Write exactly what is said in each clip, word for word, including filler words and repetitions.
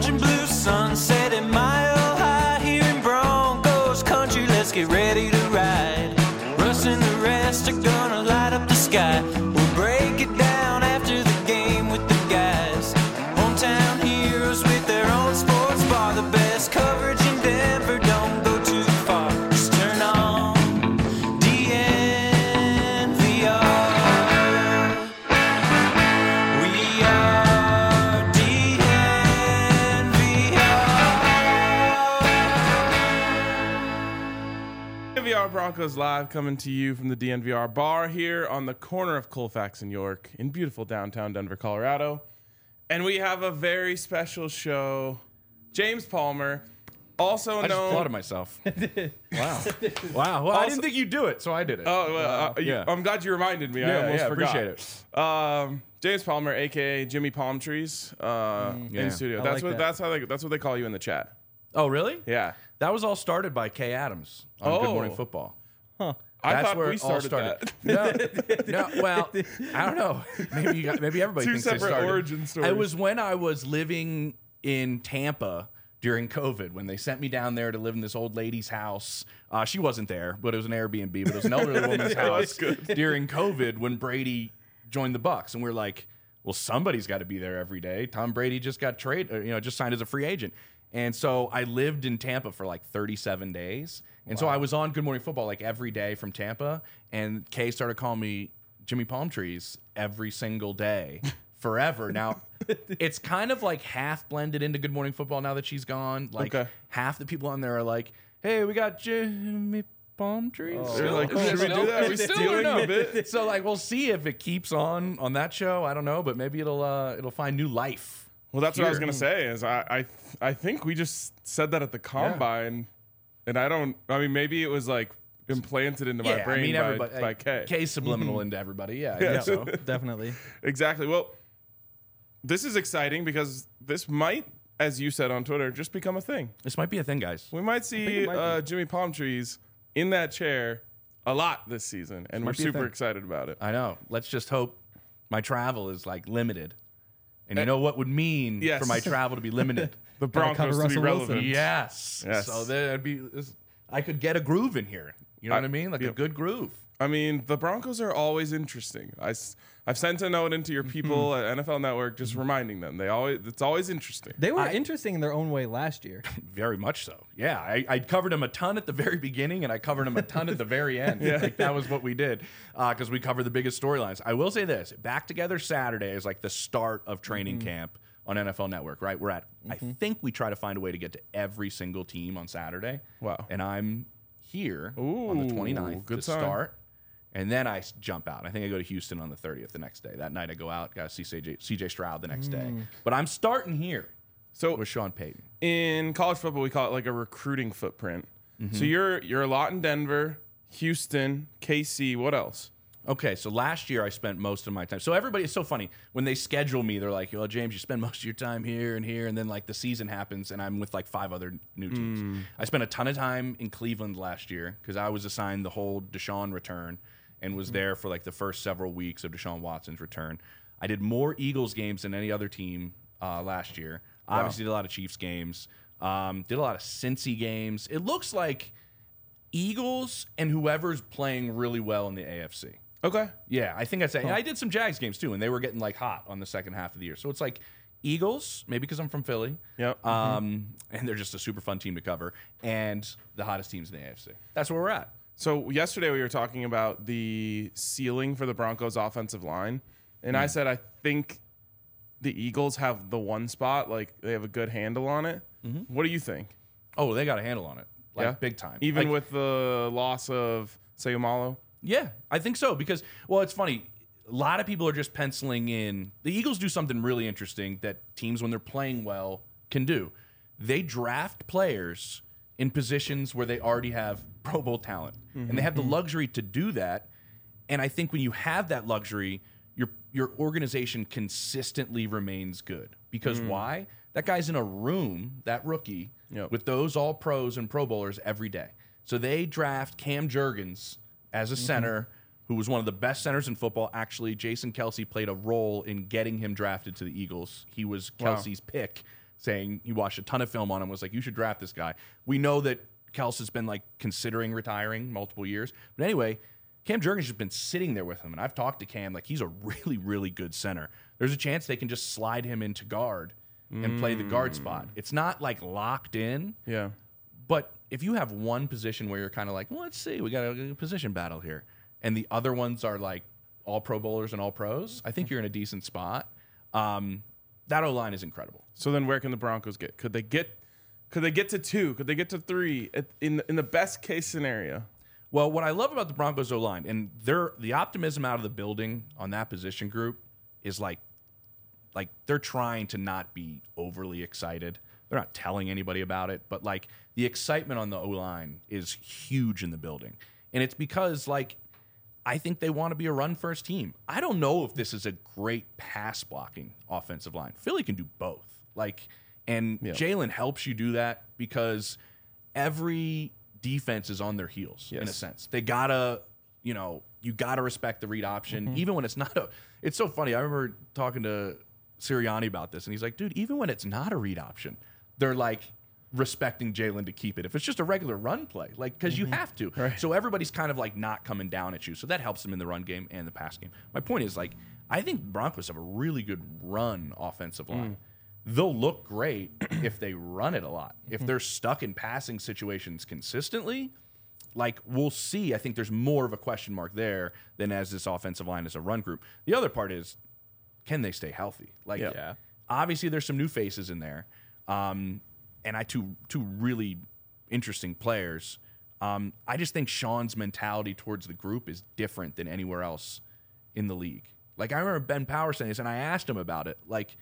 orange and blue sunset at Mile High here in Broncos country. Let's get ready to ride. Russ and the rest are gonna light up the sky. We'll break it down after the game with the guys. Hometown heroes with their own sports bar. The best coverage in Denver, don't go too far. Just turn on D N V R. We are D N V R. D N V R Broncos Live coming to you from the D N V R bar here on the corner of Colfax and York in beautiful downtown Denver, Colorado. And we have a very special show. James Palmer, also I just known... applauded myself. Wow. Wow. Well, I Also- didn't think you'd do it, so I did it. Oh, well, uh, you- yeah. I'm glad you reminded me. I Yeah, almost yeah, forgot. appreciate it. Um, James Palmer, a k a. Jimmy Palm Trees, uh, yeah. in studio. I That's like what that. that's how they that's what they call you in the chat. Oh, really? Yeah. That was all started by Kay Adams on Oh. Good Morning Football. I That's thought where we it all started, started. that. No, no, well, I don't know. Maybe you got, maybe everybody Two thinks they separate started. origin stories. It was when I was living in Tampa during COVID when they sent me down there to live in this old lady's house. Uh, she wasn't there, but it was an Airbnb. But it was an elderly woman's Yeah, house that's good. during COVID when Brady joined the Bucks, and we we're like, well, somebody's got to be there every day. Tom Brady just got traded, you know, just signed as a free agent. And so I lived in Tampa for like thirty-seven days. And so I was on Good Morning Football like every day from Tampa. And Kay started calling me Jimmy Palm Trees every single day forever. Now, it's kind of like half blended into Good Morning Football now that she's gone. Like Okay. half the people on there are like, hey, we got Jimmy Palm Trees. They're like, Is it should we still- do that? Are we is it still stealing or no? a bit? So like we'll see if it keeps on on that show. I don't know, but maybe it'll uh, it'll find new life. Well, that's what I was Here. gonna say. Is I, I I think we just said that at the combine, and I don't. I mean, maybe it was like implanted into my Yeah, brain I mean by, everybody. by Kay. Kay's subliminal into everybody. Yeah, I Yeah. think so. Definitely. Exactly. Well, this is exciting because this might, as you said on Twitter, just become a thing. This might be a thing, guys. We might think see it might uh, Jimmy Palm Trees in that chair a lot this season, and we're might be a super thing. excited about it. I know. Let's just hope my travel is like limited. And you know what would mean Yes. for my travel to be limited? The Gotta cover Broncos to be Russell Wilson. relevant. Yes. Yes. So there'd be. this- I could get a groove in here. You know I- what I mean? Like yeah. a good groove. I mean, the Broncos are always interesting. I, have sent a note into your people at N F L Network just reminding them they always it's always interesting. They were I- interesting in their own way last year. Very much so. Yeah, I, I covered him a ton at the very beginning, and I covered him a ton at the very end. Like that was what we did because we covered the biggest storylines. I will say this: Back Together Saturday is like the start of training camp on N F L Network. Right? We're at. I think we try to find a way to get to every single team on Saturday. Wow. And I'm here on the Ooh, twenty-ninth good to time. start. And then I s- jump out. I think I go to Houston on the thirtieth the next day. That night I go out, got to see C J, C J Stroud the next day. But I'm starting here So with Sean Payton. in college football, we call it like a recruiting footprint. Mm-hmm. So you're you're a lot in Denver, Houston, K C. What else? Okay, so last year I spent most of my time. So everybody, it's so funny when they schedule me. They're like, "Well, James, you spend most of your time here and here," and then like the season happens, and I'm with like five other new teams. I spent a ton of time in Cleveland last year because I was assigned the whole Deshaun return and was there for like the first several weeks of Deshaun Watson's return. I did more Eagles games than any other team uh, last year. Obviously, did a lot of Chiefs games. Um, did a lot of Cincy games. It looks like Eagles and whoever's playing really well in the A F C. Okay. Yeah, I think I'd say. And I did some Jags games too, and they were getting like hot on the second half of the year. So it's like Eagles, maybe because I'm from Philly. Yep. Um, and they're just a super fun team to cover, and the hottest teams in the A F C. That's where we're at. So yesterday we were talking about the ceiling for the Broncos offensive line, and I said I think the Eagles have the one spot, like they have a good handle on it. What do you think? Oh, they got a handle on it, like Yeah? big time. Even Like, with the loss of Sayumalo? yeah, I think so because well, it's funny. A lot of people are just penciling in. The Eagles do something really interesting that teams, when they're playing well, can do. They draft players in positions where they already have Pro Bowl talent, and they have the luxury to do that. And I think when you have that luxury, your your organization consistently remains good. Because why? That guy's in a room, that rookie, Yep. with those all pros and Pro Bowlers every day. So they draft Cam Jurgens as a center who was one of the best centers in football. Actually, Jason Kelsey played a role in getting him drafted to the Eagles. He was Wow. Kelsey's pick saying he watched a ton of film on him, was like, you should draft this guy. We know that Kels has been like considering retiring multiple years. But anyway, Cam Jurgens has been sitting there with him, and I've talked to Cam, like he's a really, really good center. There's a chance they can just slide him into guard and mm. play the guard spot. It's not like locked in. Yeah. But if you have one position where you're kind of like, well, let's see, we got a position battle here, and the other ones are like all Pro Bowlers and all pros, I think you're in a decent spot. Um, that O-line is incredible. So then where can the Broncos get? Could they get could they get to two? Could they get to three at, in, in the best case scenario? Well, what I love about the Broncos O-line, and they're, the optimism out of the building on that position group is like, like they're trying to not be overly excited. They're not telling anybody about it, but like the excitement on the O-line is huge in the building. And it's because like I think they want to be a run-first team. I don't know if this is a great pass-blocking offensive line. Philly can do both. Like, and yeah. Jalen helps you do that because every defense is on their heels yes. in a sense. They gotta, you know, you gotta respect the read option, mm-hmm. even when it's not a. It's so funny. I remember talking to Sirianni about this, and he's like, "Dude, even when it's not a read option, they're like respecting Jalen to keep it. If it's just a regular run play, like because mm-hmm. you have to. Right. So everybody's kind of like not coming down at you. So that helps them in the run game and the pass game. My point is like, I think Broncos have a really good run offensive line." Mm. They'll look great if they run it a lot. If they're stuck in passing situations consistently, like we'll see. I think there's more of a question mark there than as this offensive line is a run group. The other part is, can they stay healthy? Like, yeah. yeah. obviously there's some new faces in there, um, and I two two really interesting players. Um, I just think Sean's mentality towards the group is different than anywhere else in the league. Like I remember Ben Power saying this, and I asked him about it. Like,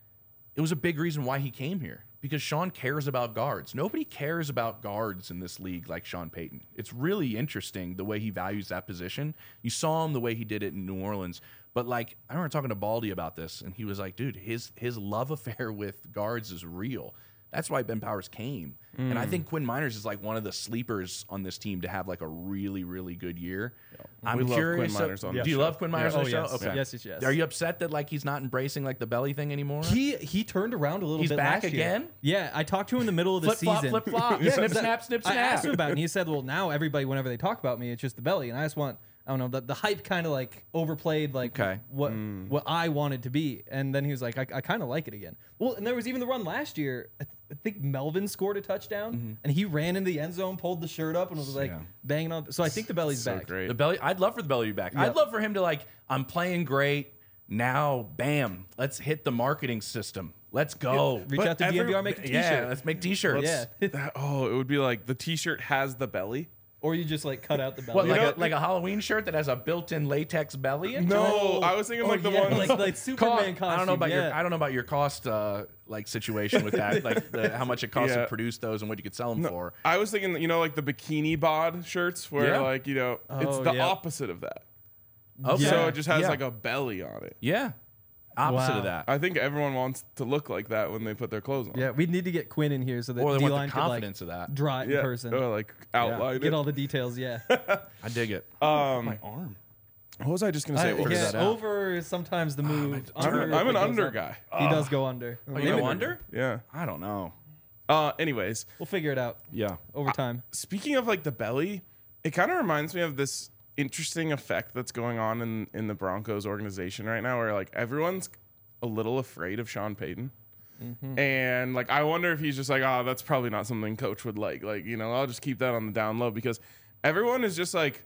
it was a big reason why he came here, because Sean cares about guards. Nobody cares about guards in this league like Sean Payton. It's really interesting the way he values that position. You saw him the way he did it in New Orleans. But, like, I remember talking to Baldy about this, and he was like, dude, his his love affair with guards is real. That's why Ben Powers came. Mm. And I think Quinn Miners is, like, one of the sleepers on this team to have, like, a really, really good year. Yeah. I'm we curious. Love Quinn Miners on do the you show. love Quinn Miners yeah. on oh, the show? Yes. Okay. Yes, yes, yes. Are you upset that, like, he's not embracing, like, the belly thing anymore? He he turned around a little he's bit back last year. again? Yeah, I talked to him in the middle of the flip season. Flop, flip flop, yeah, snip, that, snap, snip, snap. I asked him about it, and he said, well, now everybody, whenever they talk about me, it's just the belly. And I just want, I don't know, the, the hype kind of, like, overplayed, like, okay. what mm. what I wanted to be. And then he was like, I, I kind of like it again. Well, and there was even the run last year. I, th- I think Melvin scored a touchdown, mm-hmm. and he ran into the end zone, pulled the shirt up, and was, like, yeah. banging on. So I think the belly's so back. Great. The belly, I'd love for the belly to be back. Yep. I'd love for him to, like, I'm playing great. Now, bam, let's hit the marketing system. Let's go. Reach But out to every- D N V R, make a t-shirt. Yeah, let's make t-shirts. Yeah. That- oh, it would be like the T-shirt has the belly. Or you just, like, cut out the belly. What, like, know- a, like a Halloween shirt that has a built-in latex belly? into No, it? I was thinking Oh, like the yeah, one like, like Superman Cost- costume. I don't know about yeah. your I don't know about your cost uh, like situation with that, like the, how much it costs Yeah. to produce those and what you could sell them No, for. I was thinking, you know, like the bikini bod shirts, where Yeah. like you know, it's Oh, the yeah. opposite of that. Okay. So it just has Yeah. like a belly on it. yeah, opposite Wow. of that. I think everyone wants to look like that when they put their clothes on. Yeah, we need to get Quinn in here so that Or they want D-line the could, like, confidence of that. draw it yeah. in person. Or like outline Get it. all the details, yeah. I dig it. um, My arm. what was I just gonna I, say? What was figure yeah, that out. over is sometimes the move. I'm, under I'm an goes under up. guy. He does go under. Oh, you go under? Yeah. I don't know. Uh, anyways, We'll figure it out Yeah. over time. speaking of like the belly, it kind of reminds me of this interesting effect that's going on in in the Broncos organization right now, where like everyone's a little afraid of Sean Payton. Mm-hmm. And like I wonder if he's just like, oh, that's probably not something coach would like. Like, you know, I'll just keep that on the down low, because everyone is just like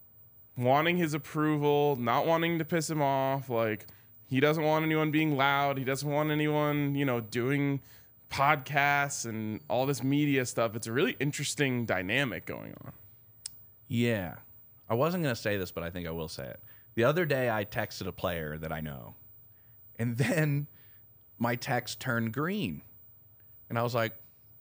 wanting his approval, not wanting to piss him off. Like, he doesn't want anyone being loud. He doesn't want anyone, you know, doing podcasts and all this media stuff. It's a really interesting dynamic going on. Yeah. I wasn't going to say this, but I think I will say it. The other day, I texted a player that I know, and then my text turned green. And I was like,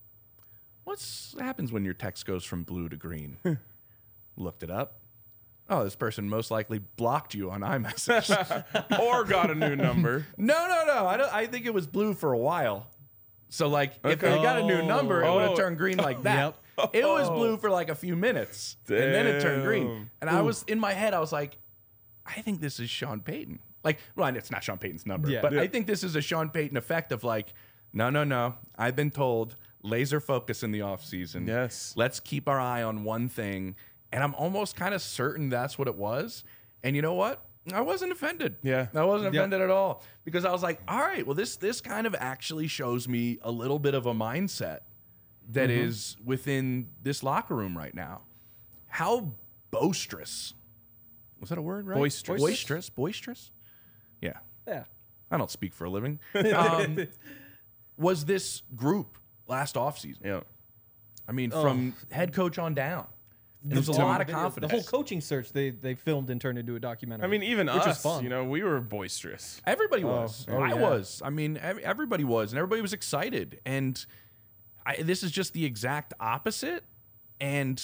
what happens when your text goes from blue to green? Looked it up. Oh, this person most likely blocked you on iMessage. Or got a new number. no, no, no. I, don't, I think it was blue for a while. So, like, if Okay. they got a new number, it would Oh. have turned green like that. It was blue for like a few minutes, and then it turned green. Damn. And I was, in my head, I was like, I think this is Sean Payton. Like, well, it's not Sean Payton's number, Yeah. but Yeah. I think this is a Sean Payton effect of like, no, no, no. I've been told laser focus in the offseason. Yes. Let's keep our eye on one thing. And I'm almost kind of certain that's what it was. And you know what? I wasn't offended. Yeah. I wasn't Yeah. offended at all because I was like, all right, well, this this kind of actually shows me a little bit of a mindset that Mm-hmm. is within this locker room right now. How boisterous. Was that a word, right? Boisterous. Boisterous? Boisterous? Yeah. Yeah. I don't speak for a living. Um, was this group last offseason? Yeah. I mean, from head coach on down. There's a To- lot of The confidence. whole coaching search they they filmed and turned into a documentary. I mean, even which us, is fun. you know, we were boisterous. Everybody was. oh, I yeah. was. I mean, ev- everybody was, and everybody was excited. And I, this is just the exact opposite. And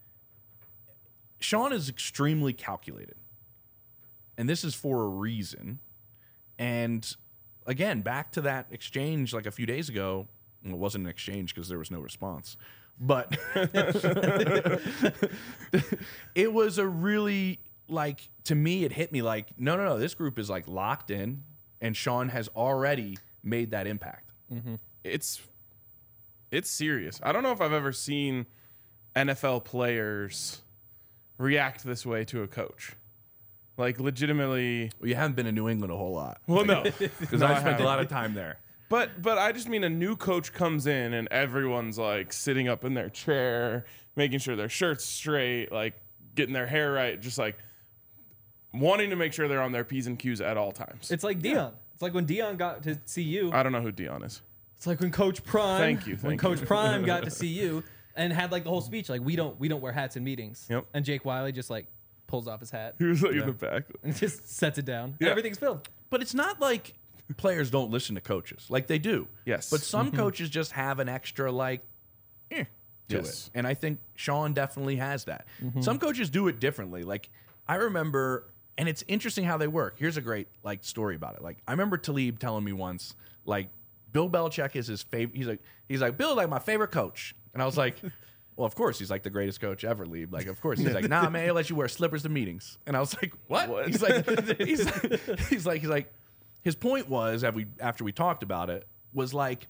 Sean is extremely calculated, and this is for a reason. And again, back to that exchange like a few days ago. Well, it wasn't an exchange because there was no response, but it was a really like to me. It hit me like, no, no, no. This group is like locked in, and Sean has already made that impact. It's it's serious. I don't know if I've ever seen N F L players react this way to a coach. Like legitimately. Well, you haven't been in New England a whole lot. Well, no, because No, I I spent a haven't. lot of time there. But but I just mean a new coach comes in and everyone's like sitting up in their chair, making sure their shirt's straight, like getting their hair right, just like wanting to make sure they're on their P's and Q's at all times. it's like Dion. It's like when Dion got to see you. I don't know who Dion is. It's like when Coach Prime. Thank you, when thank Coach you. Prime got to see you and had like the whole speech, like we don't we don't wear hats in meetings. Yep. And Jake Wiley just like pulls off his hat He was like in the back. and just sets it down. Yeah. Everything's filmed. But it's not like players don't listen to coaches. Like they do. Yes. But some coaches just have an extra like eh, to Yes. it. And I think Sean definitely has that. Some coaches do it differently. Like I remember, and it's interesting how they work. Here's a great like story about it. Like I remember Talib telling me once, like Bill Belichick is his favorite. He's like, he's like, Bill, like my favorite coach. And I was like, well, of course, he's like the greatest coach ever, Lieb. Like, of course. He's like, nah, man, he'll let you wear slippers to meetings. And I was like, what? What? He's like, he's like, he's like, he's like, his point was, after we, after we talked about it, was like,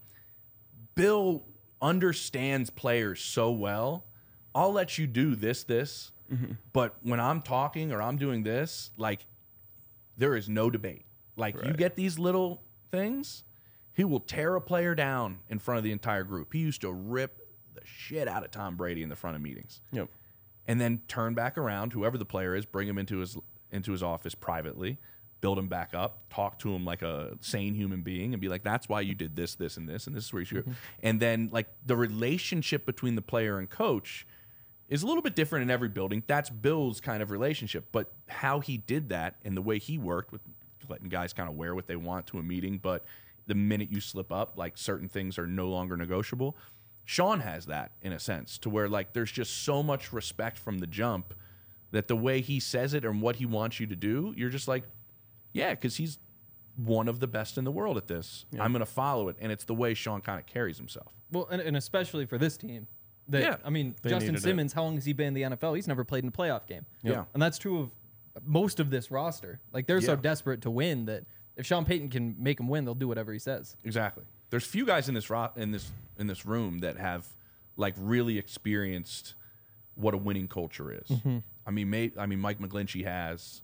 Bill understands players so well. I'll let you do this, this, but when I'm talking or I'm doing this, like, there is no debate. Like, you Right. get these little things, he will tear a player down in front of the entire group. He used to rip the shit out of Tom Brady in the front of meetings, Yep. and then turn back around, whoever the player is, bring him into his into his office privately, build him back up, talk to him like a sane human being, and be like, "That's why you did this, this, and this, and this is where you should." And then, like, the relationship between the player and coach is a little bit different in every building. That's Bill's kind of relationship, but how he did that and the way he worked with letting guys kind of wear what they want to a meeting, but the minute you slip up, like certain things are no longer negotiable. Sean has that in a sense to where like there's just so much respect from the jump that the way he says it and what he wants you to do, you're just like, yeah, because he's one of the best in the world at this. I'm going to follow it. And it's the way Sean kind of carries himself. Well, and, and especially for this team. That, Yeah. I mean, They Justin needed it. Simmons, how long has he been in the N F L? He's never played in a playoff game. Yeah. And that's true of most of this roster. Like, they're so Yeah. desperate to win that if Sean Payton can make them win, they'll do whatever he says. Exactly. There's few guys in this ro- in this in this room that have like really experienced what a winning culture is. I mean, may, I mean, Mike McGlinchey has.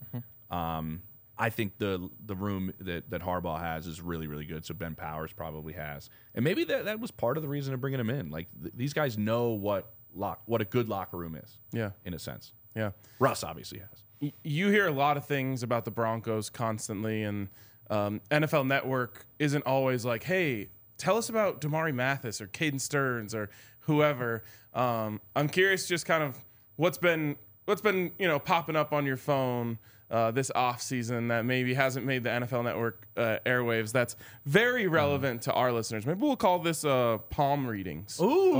Um, I think the the room that, that Harbaugh has is really really good. So Ben Powers probably has, and maybe that, that was part of the reason of bringing him in. Like th- these guys know what lock what a good locker room is. Yeah. in a sense. Yeah. Russ obviously has. Y- You hear a lot of things about the Broncos constantly, and um, N F L Network isn't always like, hey, tell us about Damari Mathis or Caden Stearns or whoever. Um, I'm curious just kind of what's been what's been, you know, popping up on your phone uh, this offseason that maybe hasn't made the N F L Network uh, airwaves that's very relevant to our listeners. Maybe we'll call this uh, palm readings. Ooh.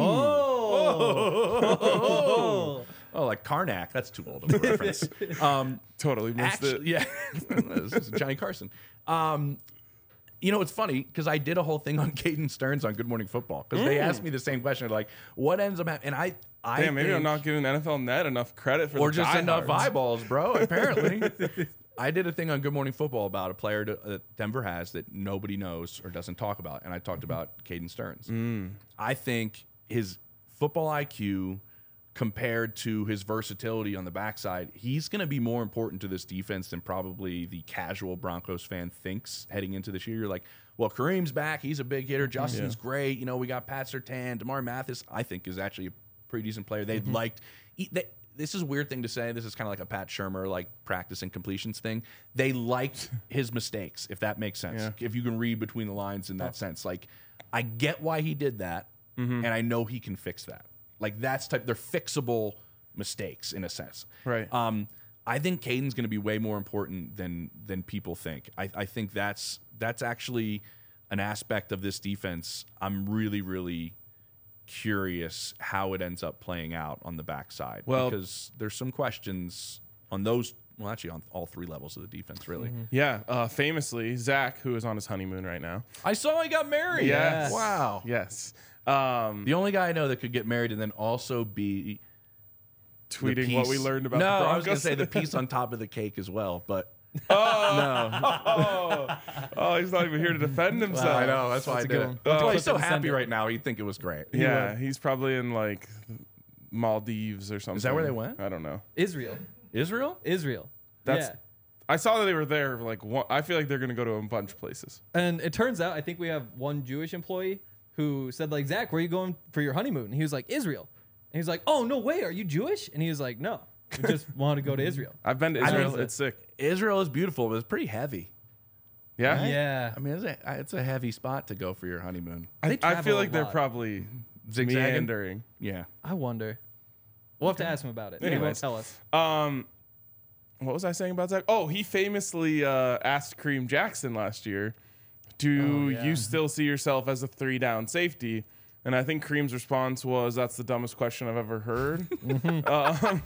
Oh. Oh, like Karnak. That's too old of a reference. Um, Totally missed it. Actually, yeah, this is Johnny Carson. Um, you know, it's funny because I did a whole thing on Caden Stearns on Good Morning Football because they asked me the same question. They're like, what ends up happening? And I, I Damn, maybe think, I'm not giving N F L Net enough credit for or the just enough diehards. eyeballs, bro. Apparently, I did a thing on Good Morning Football about a player to, that Denver has that nobody knows or doesn't talk about, and I talked about Caden Stearns. Mm. I think his football I Q compared to his versatility on the backside, he's going to be more important to this defense than probably the casual Broncos fan thinks heading into this year. You're like, well, Kareem's back. He's a big hitter. Justin's Yeah. great. You know, we got Pat Surtain. DeMar Mathis, I think, is actually a pretty decent player. They mm-hmm. liked he, they, this is a weird thing to say. This is kind of like a Pat Shurmur, like practice and completions thing. They liked his mistakes, if that makes sense. Yeah. If you can read between the lines in that oh. sense. Like, I get why he did that, mm-hmm. and I know he can fix that. Like, that's type, they're fixable mistakes in a sense. Right. Um, I think Caden's going to be way more important than than people think. I, I think that's that's actually an aspect of this defense. I'm really, really curious how it ends up playing out on the backside. Well, because there's some questions on those, well, actually on all three levels of the defense, really. Mm-hmm. Yeah. Uh, famously, Zach, who is on his honeymoon right now. I saw he got married. Yes. Wow. Yes. Um, the only guy I know that could get married and then also be tweeting piece, what we learned about no, the Broncos. I was going to say the piece on top of the cake as well, but oh, no. oh, oh, he's not even here to defend himself. Well, I know. That's why That's I did it. one. That's Oh, why he's so Clip it and happy send it. right now. He'd think it was great. Yeah, he's probably in like Maldives or something. Is that where they went? I don't know. Israel. Israel? Israel. That's. yeah. I saw that they were there. Like, one, I feel like they're gonna go to a bunch of places. And it turns out, I think we have one Jewish employee who said, like, Zach, where are you going for your honeymoon? And he was like, Israel. And he was like, oh, no way. Are you Jewish? And he was like, no. We just wanted to go to Israel. I've been to I Israel. mean, It's sick. Israel is beautiful, but it's pretty heavy. Yeah. Yeah. I mean, it's a, it's a heavy spot to go for your honeymoon. I, They I travel feel a like they're lot. probably Zigzagging? meandering. Yeah. I wonder. We'll have to ask him about it. He won't Anyways. tell us. Um, what was I saying about Zach? Oh, he famously uh, asked Kareem Jackson last year, "Do Oh, yeah. you still see yourself as a three down safety?" And I think Kareem's response was, "That's the dumbest question I've ever heard." um,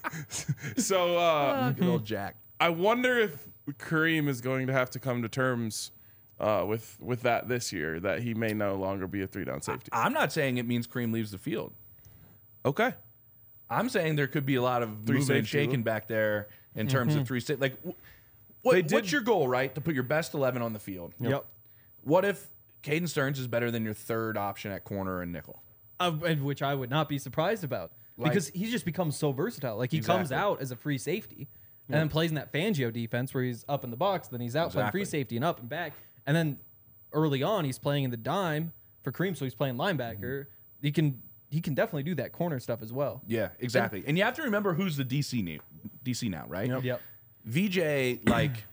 so uh, Good old Jack. I wonder if Kareem is going to have to come to terms uh, with with that this year, that he may no longer be a three down safety. I'm not saying it means Kareem leaves the field. Okay. I'm saying there could be a lot of Three moving and safety. shaking back there in terms of three safety. Like, wh- what, They did- what's your goal, right? To put your best eleven on the field. Yep. What if Caden Stearns is better than your third option at corner and nickel? Uh, and which I would not be surprised about Like- because he's just become so versatile. Like he comes Exactly. out as a free safety and then plays in that Fangio defense where he's up in the box, then he's out playing Exactly. free safety and up and back. And then early on, he's playing in the dime for Kareem, so he's playing linebacker. He can he can definitely do that corner stuff as well. Yeah, exactly. And you have to remember who's the D C now, D C now, right? Yep. Yep. V J, like,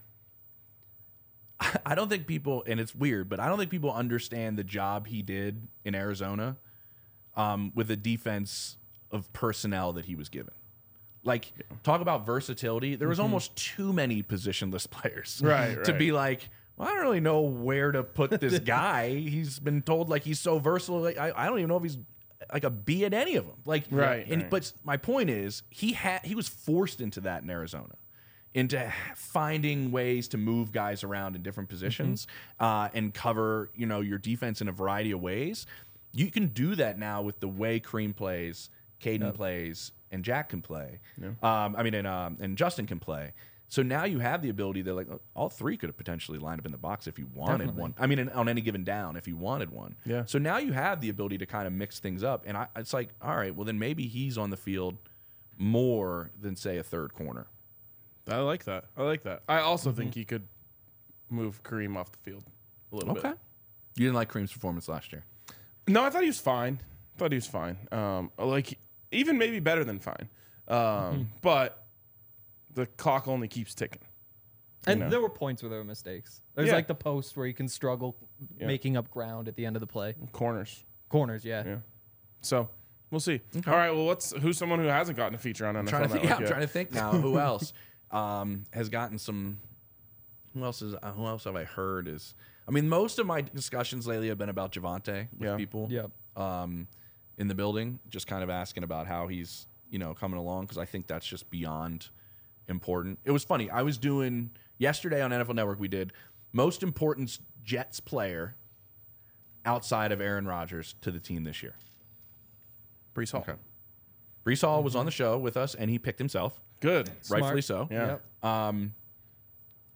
I don't think people, and it's weird, but I don't think people understand the job he did in Arizona um, with the defense of personnel that he was given. Like, talk about versatility. There was almost too many positionless players, Right, to right. be like, well, I don't really know where to put this guy. He's been told like he's so versatile. Like, I, I don't even know if he's like a B at any of them. Like, Right, And right. but my point is, he had he was forced into that in Arizona, into finding ways to move guys around in different positions uh, and cover, you know, your defense in a variety of ways. You can do that now with the way Kareem plays, Caden plays, and Jack can play. Um, I mean, and um, and Justin can play. So now you have the ability to, like, all three could have potentially lined up in the box if you wanted Definitely. one. I mean, in, on any given down, if you wanted one. Yeah. So now you have the ability to kind of mix things up. And I, it's like, all right, well, then maybe he's on the field more than, say, a third corner. I like that. I like that. I also think he could move Kareem off the field a little Okay. bit. You didn't like Kareem's performance last year. No, I thought he was fine. I thought he was fine. Um, like even maybe better than fine. Um, But the clock only keeps ticking. And know. there were points where there were mistakes. There's Yeah. like the post where you can struggle Yeah. making up ground at the end of the play. Corners. Corners, yeah. Yeah. So we'll see. All right. Well, what's who's someone who hasn't gotten a feature on N F L Trying to think, Network yeah, I'm yet? trying to think now. Who else um, has gotten some? Who else is? Uh, who else have I heard is? I mean, most of my discussions lately have been about Javonte with Yeah. people. Yep. Um, in the building, just kind of asking about how he's, you know, coming along, because I think that's just beyond important. It was funny. I was doing yesterday on N F L Network. We did most important Jets player outside of Aaron Rodgers to the team this year. Brees Hall. Okay. Brees Hall was on the show with us, and he picked himself, Good. rightfully so. Yeah. Yep. Um,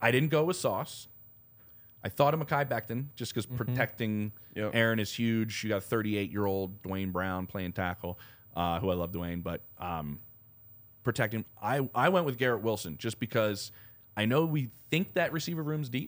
I didn't go with Sauce. I thought of Mekhi Becton just because protecting Yep. Aaron is huge. You got a thirty-eight-year-old Dwayne Brown playing tackle, uh, who I love Dwayne, but um, protecting. I, I went with Garrett Wilson just because I know we think that receiver room's deep.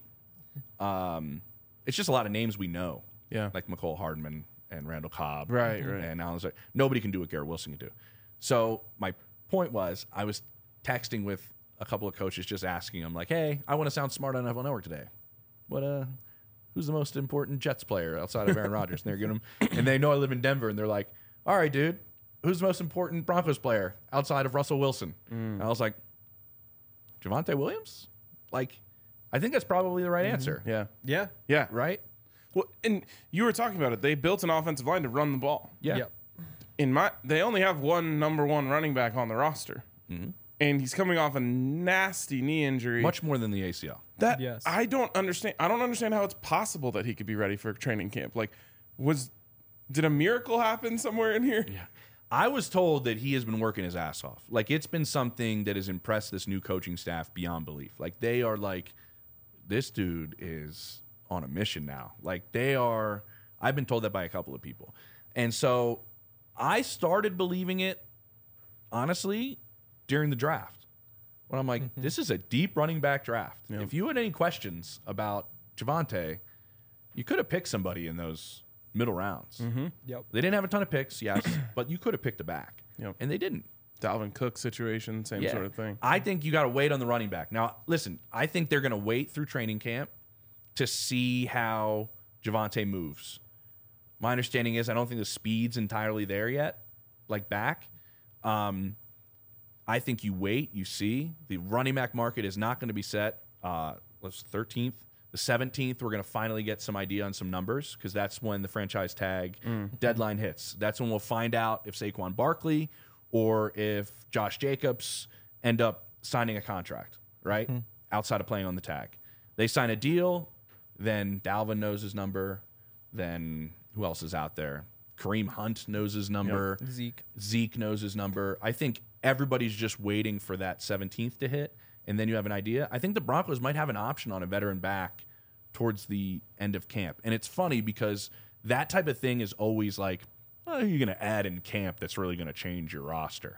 Um, it's just a lot of names we know. Yeah. Like McCole Hardman and Randall Cobb. Right, right. And Alan Zar- Nobody can do what Garrett Wilson can do. So my point was I was texting with a couple of coaches just asking them, like, hey, I want to sound smart on N F L Network today. What uh, who's the most important Jets player outside of Aaron Rodgers? And they're giving them, and they know I live in Denver, and they're like, all right, dude, who's the most important Broncos player outside of Russell Wilson? Mm. And I was like, Javonte Williams? Like, I think that's probably the right answer. Yeah. Yeah. Yeah. Right? Well, and you were talking about it. They built an offensive line to run the ball. Yeah. Yep. In my, they only have one number one running back on the roster, and he's coming off a nasty knee injury. Much more than the A C L. that Yes. I don't understand. I don't understand how it's possible that he could be ready for training camp. Like, was did a miracle happen somewhere in here? Yeah. I was told that he has been working his ass off. Like, it's been something that has impressed this new coaching staff beyond belief. Like, they are like, this dude is on a mission now. Like, they are, I've been told that by a couple of people. And so I started believing it, honestly, during the draft. When I'm like, Mm-hmm. this is a deep running back draft. If you had any questions about Javonte, you could have picked somebody in those middle rounds. Yep. They didn't have a ton of picks, yes, but you could have picked a back. Yep. And they didn't. Dalvin Cook situation, same sort of thing. I think you got to wait on the running back. Now, listen, I think they're going to wait through training camp to see how Javonte moves. My understanding is I don't think the speed's entirely there yet, like back. Um, I think you wait, you see. The running back market is not going to be set. Uh, what's thirteenth? The seventeenth, we're going to finally get some idea on some numbers because that's when the franchise tag deadline hits. That's when we'll find out if Saquon Barkley or if Josh Jacobs end up signing a contract, right? Outside of playing on the tag. They sign a deal, then Dalvin knows his number, then who else is out there? Kareem Hunt knows his number. Zeke. Zeke knows his number. I think everybody's just waiting for that seventeenth to hit, and then you have an idea. I think the Broncos might have an option on a veteran back towards the end of camp. And it's funny because that type of thing is always like, oh, who are you going to add in camp that's really going to change your roster?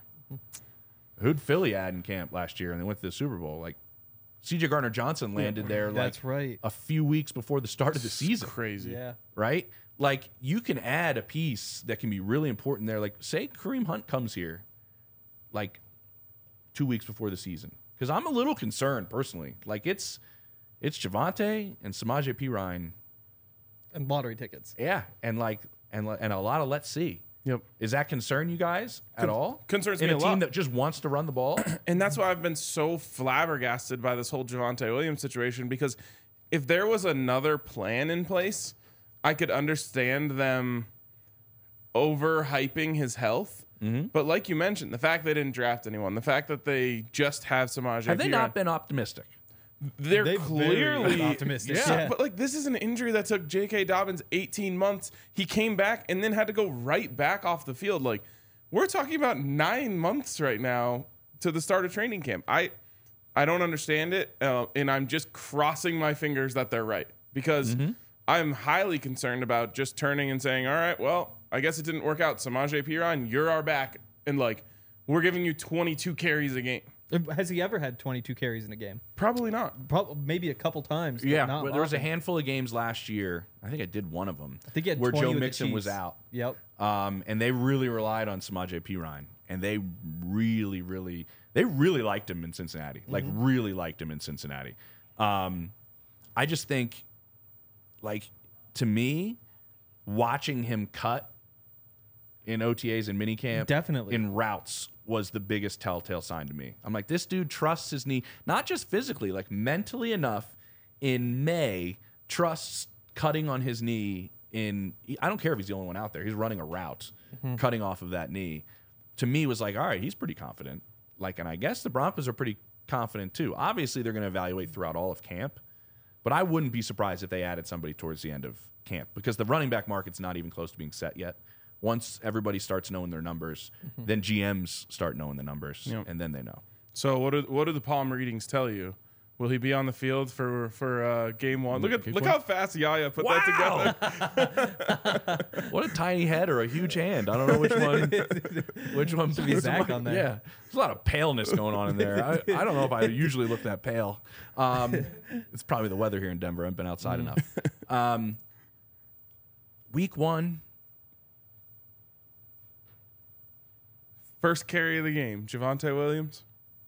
Who'd Philly add in camp last year and they went to the Super Bowl? Like, C J Gardner-Johnson landed there like That's right. a few weeks before the start of the season, Crazy. Yeah. right? Like, you can add a piece that can be really important there. Like, say Kareem Hunt comes here like two weeks before the season. Because I'm a little concerned personally. Like, it's it's Javonte and Samaje Perine. And lottery tickets. Yeah, and like and and a lot of let's see. Yep. Is that concern you guys at all? concerns in me a a team lot. that just wants to run the ball. And that's why I've been so flabbergasted by this whole Javonte Williams situation, because if there was another plan in place, I could understand them overhyping his health. Mm-hmm. But like you mentioned, the fact they didn't draft anyone, the fact that they just have Samaje Have they Perine, not been optimistic? they're They've clearly very optimistic. Yeah, Yeah. but like this is an injury that took J K. Dobbins eighteen months. He came back and then had to go right back off the field. Like, we're talking about nine months right now to the start of training camp. I I don't understand it, uh, and I'm just crossing my fingers that they're right, because I'm highly concerned about just turning and saying, all right, well, I guess it didn't work out. Samaje Perine, you're our back, and like we're giving you twenty-two carries a game. Has he ever had twenty-two carries in a game? Probably not. Probably maybe a couple times. but Yeah, not but there was a often. handful of games last year. I think I did one of them. I think he had where twenty Joe with the Mixon was Chiefs. out. Yep. Um, and they really relied on Samaje Perine, and they really, really, they really liked him in Cincinnati. Like, really liked him in Cincinnati. Um, I just think, like, to me, watching him cut in O T As and minicamp, Definitely. in routes, was the biggest telltale sign to me. I'm like, this dude trusts his knee, not just physically, like mentally enough. In May, trusts cutting on his knee. In I don't care if he's the only one out there. He's running a route, cutting off of that knee. To me, was like, all right, he's pretty confident. Like, and I guess the Broncos are pretty confident too. Obviously, they're going to evaluate throughout all of camp, but I wouldn't be surprised if they added somebody towards the end of camp, because the running back market's not even close to being set yet. Once everybody starts knowing their numbers, then G Ms start knowing the numbers, Yep. and then they know. So what do what do the palm readings tell you? Will he be on the field for for uh, game one? Look at Kick look one? how fast Yaya put Wow. that together. What a tiny head or a huge hand. I don't know which one. Which one? Should be Zach on there. Yeah, there's a lot of paleness going on in there. I, I don't know if I usually look that pale. Um, it's probably the weather here in Denver. I've been outside enough. Um, week one. First carry of the game, Javonte Williams.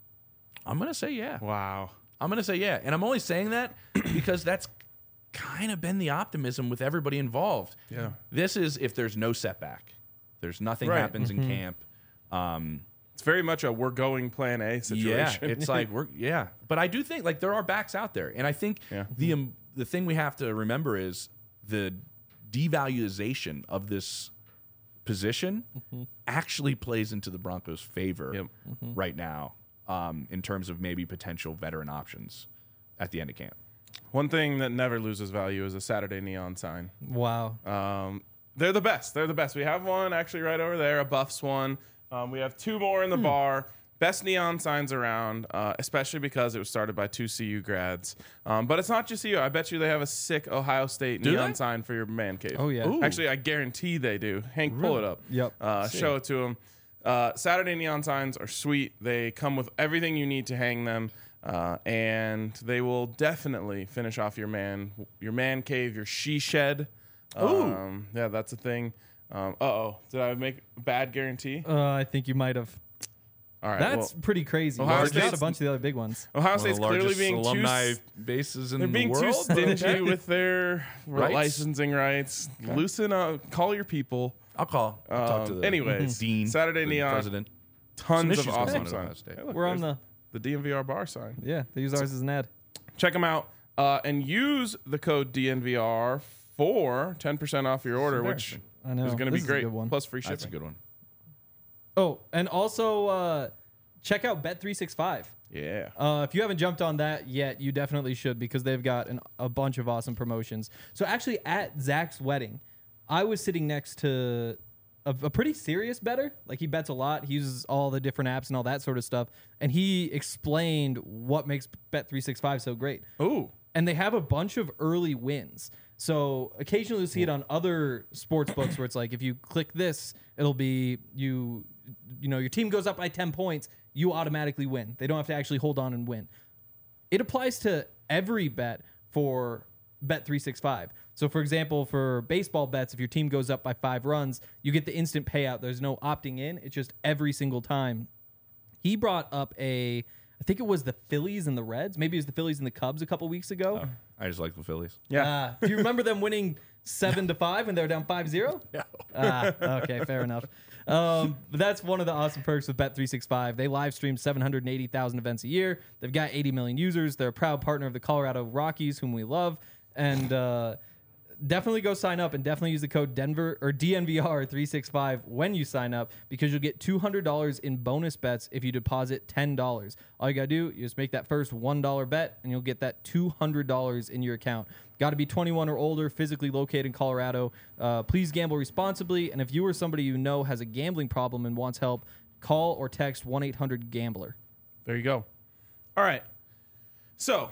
I'm gonna say yeah. Wow. I'm going to say yeah. And I'm only saying that because that's kind of been the optimism with everybody involved. Yeah. This is if there's no setback, there's nothing Right. happens in camp. Um, It's very much a we're going plan A yeah, situation. it's like we're yeah. But I do think like there are backs out there, and I think Yeah. the um, the thing we have to remember is the devaluation of this position actually plays into the Broncos' favor Yep. right now. Um, in terms of maybe potential veteran options at the end of camp. One thing that never loses value is a Saturday neon sign. Wow. Um, they're the best. They're the best. We have one actually right over there, a Buffs one. Um, we have two more in the bar. Best neon signs around, uh, especially because it was started by two C U grads. Um, but it's not just C U. I bet you they have a sick Ohio State Do neon they? sign for your man cave. Oh, yeah. Ooh. Actually, I guarantee they do. Hank, pull it up. Yep. Uh, show it to them. Uh, Saturday neon signs are sweet. They come with everything you need to hang them, uh, and they will definitely finish off your man, your man cave, your she shed. Um, yeah, that's a thing. Um, uh oh, did I make a bad guarantee? Uh, I think you might have. All right, That's well, pretty crazy. Ohio There's just State's- a bunch of the other big ones. Ohio One of State's the clearly largest being alumni too. s- bases in They're being the too world. stingy with their Rights? licensing rights. Loosen up. Call your people. I'll call. I'll talk to Um, the anyways, dean, Saturday the neon. president. Tons Some of issues going awesome on at Ohio signs. State. Hey, look, We're on there's the. the D N V R bar sign. Yeah, they use ours as an ad. Check them out uh, and use the code D N V R for ten percent off your order, which embarrassing. I know. is going to This be is a great. good one. Plus free shipping. That's a good one. Oh, and also uh, check out Bet three sixty-five. Yeah. Uh, if you haven't jumped on that yet, you definitely should because they've got an, a bunch of awesome promotions. So actually, at Zach's wedding, I was sitting next to a, a pretty serious bettor. Like he bets a lot. He uses all the different apps and all that sort of stuff. And he explained what makes Bet three sixty-five so great. Ooh. And they have a bunch of early wins. So occasionally you see it on other sports books where it's like if you click this, it'll be you you know your team goes up by ten points, you automatically win. They don't have to actually hold on and win. It applies to every bet for Bet three sixty-five. So for example, for baseball bets, if your team goes up by five runs, you get the instant payout. There's no opting in. It's just every single time. He brought up a I think it was the Phillies and the Reds. Maybe it was the Phillies and the Cubs a couple weeks ago. I just like the Phillies. Yeah. Uh, do you remember them winning seven to five when they were down five zero? No. Ah, okay, fair enough. Um, but that's one of the awesome perks with Bet three sixty-five. They live stream seven hundred eighty thousand events a year. They've got eighty million users. They're a proud partner of the Colorado Rockies, whom we love. And uh, definitely go sign up and definitely use the code Denver or D N V R three sixty-five when you sign up because you'll get two hundred dollars in bonus bets if you deposit ten dollars. All you got to do is just make that first one dollar bet and you'll get that two hundred dollars in your account. Got to be twenty-one or older, physically located in Colorado. Uh, please gamble responsibly. And if you or somebody you know has a gambling problem and wants help, call or text one eight hundred gambler. There you go. All right. So.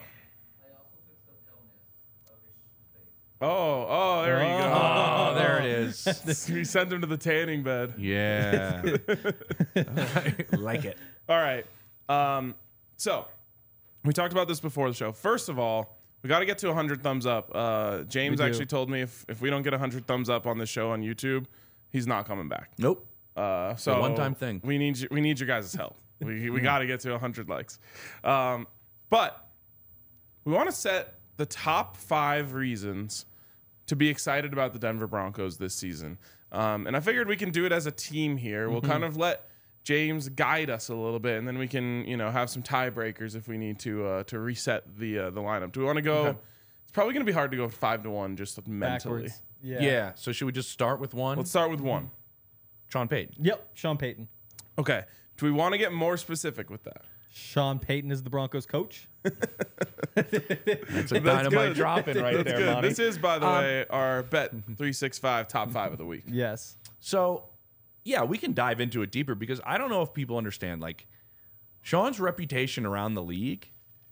Oh, oh, there you go. Oh, there it is. We sent him to the tanning bed. Yeah. I like it. All right. Um, so we talked about this before the show. First of all, we got to get to one hundred thumbs up. Uh, James We do. actually told me if, if we don't get one hundred thumbs up on this show on YouTube, he's not coming back. Nope. Uh, so one-time thing. We need you, we need your guys' help. we we got to get to one hundred likes. Um, but we want to set the top five reasons to be excited about the Denver Broncos this season. Um, and I figured we can do it as a team here. We'll kind of let James guide us a little bit, and then we can, you know, have some tiebreakers if we need to uh, to reset the uh, the lineup. Do we want to go? Okay. It's probably going to be hard to go five to one just mentally. Backwards. Yeah. So should we just start with one? Let's start with one. Sean Payton. Yep. Sean Payton. Okay. Do we want to get more specific with that? Sean Payton is the Broncos coach. That's a dynamite dropping right That's there, good. Monty. This is, by the Um, way, our Bet three sixty-five top five of the week. Yes. So, yeah, we can dive into it deeper because I don't know if people understand. Like, Sean's reputation around the league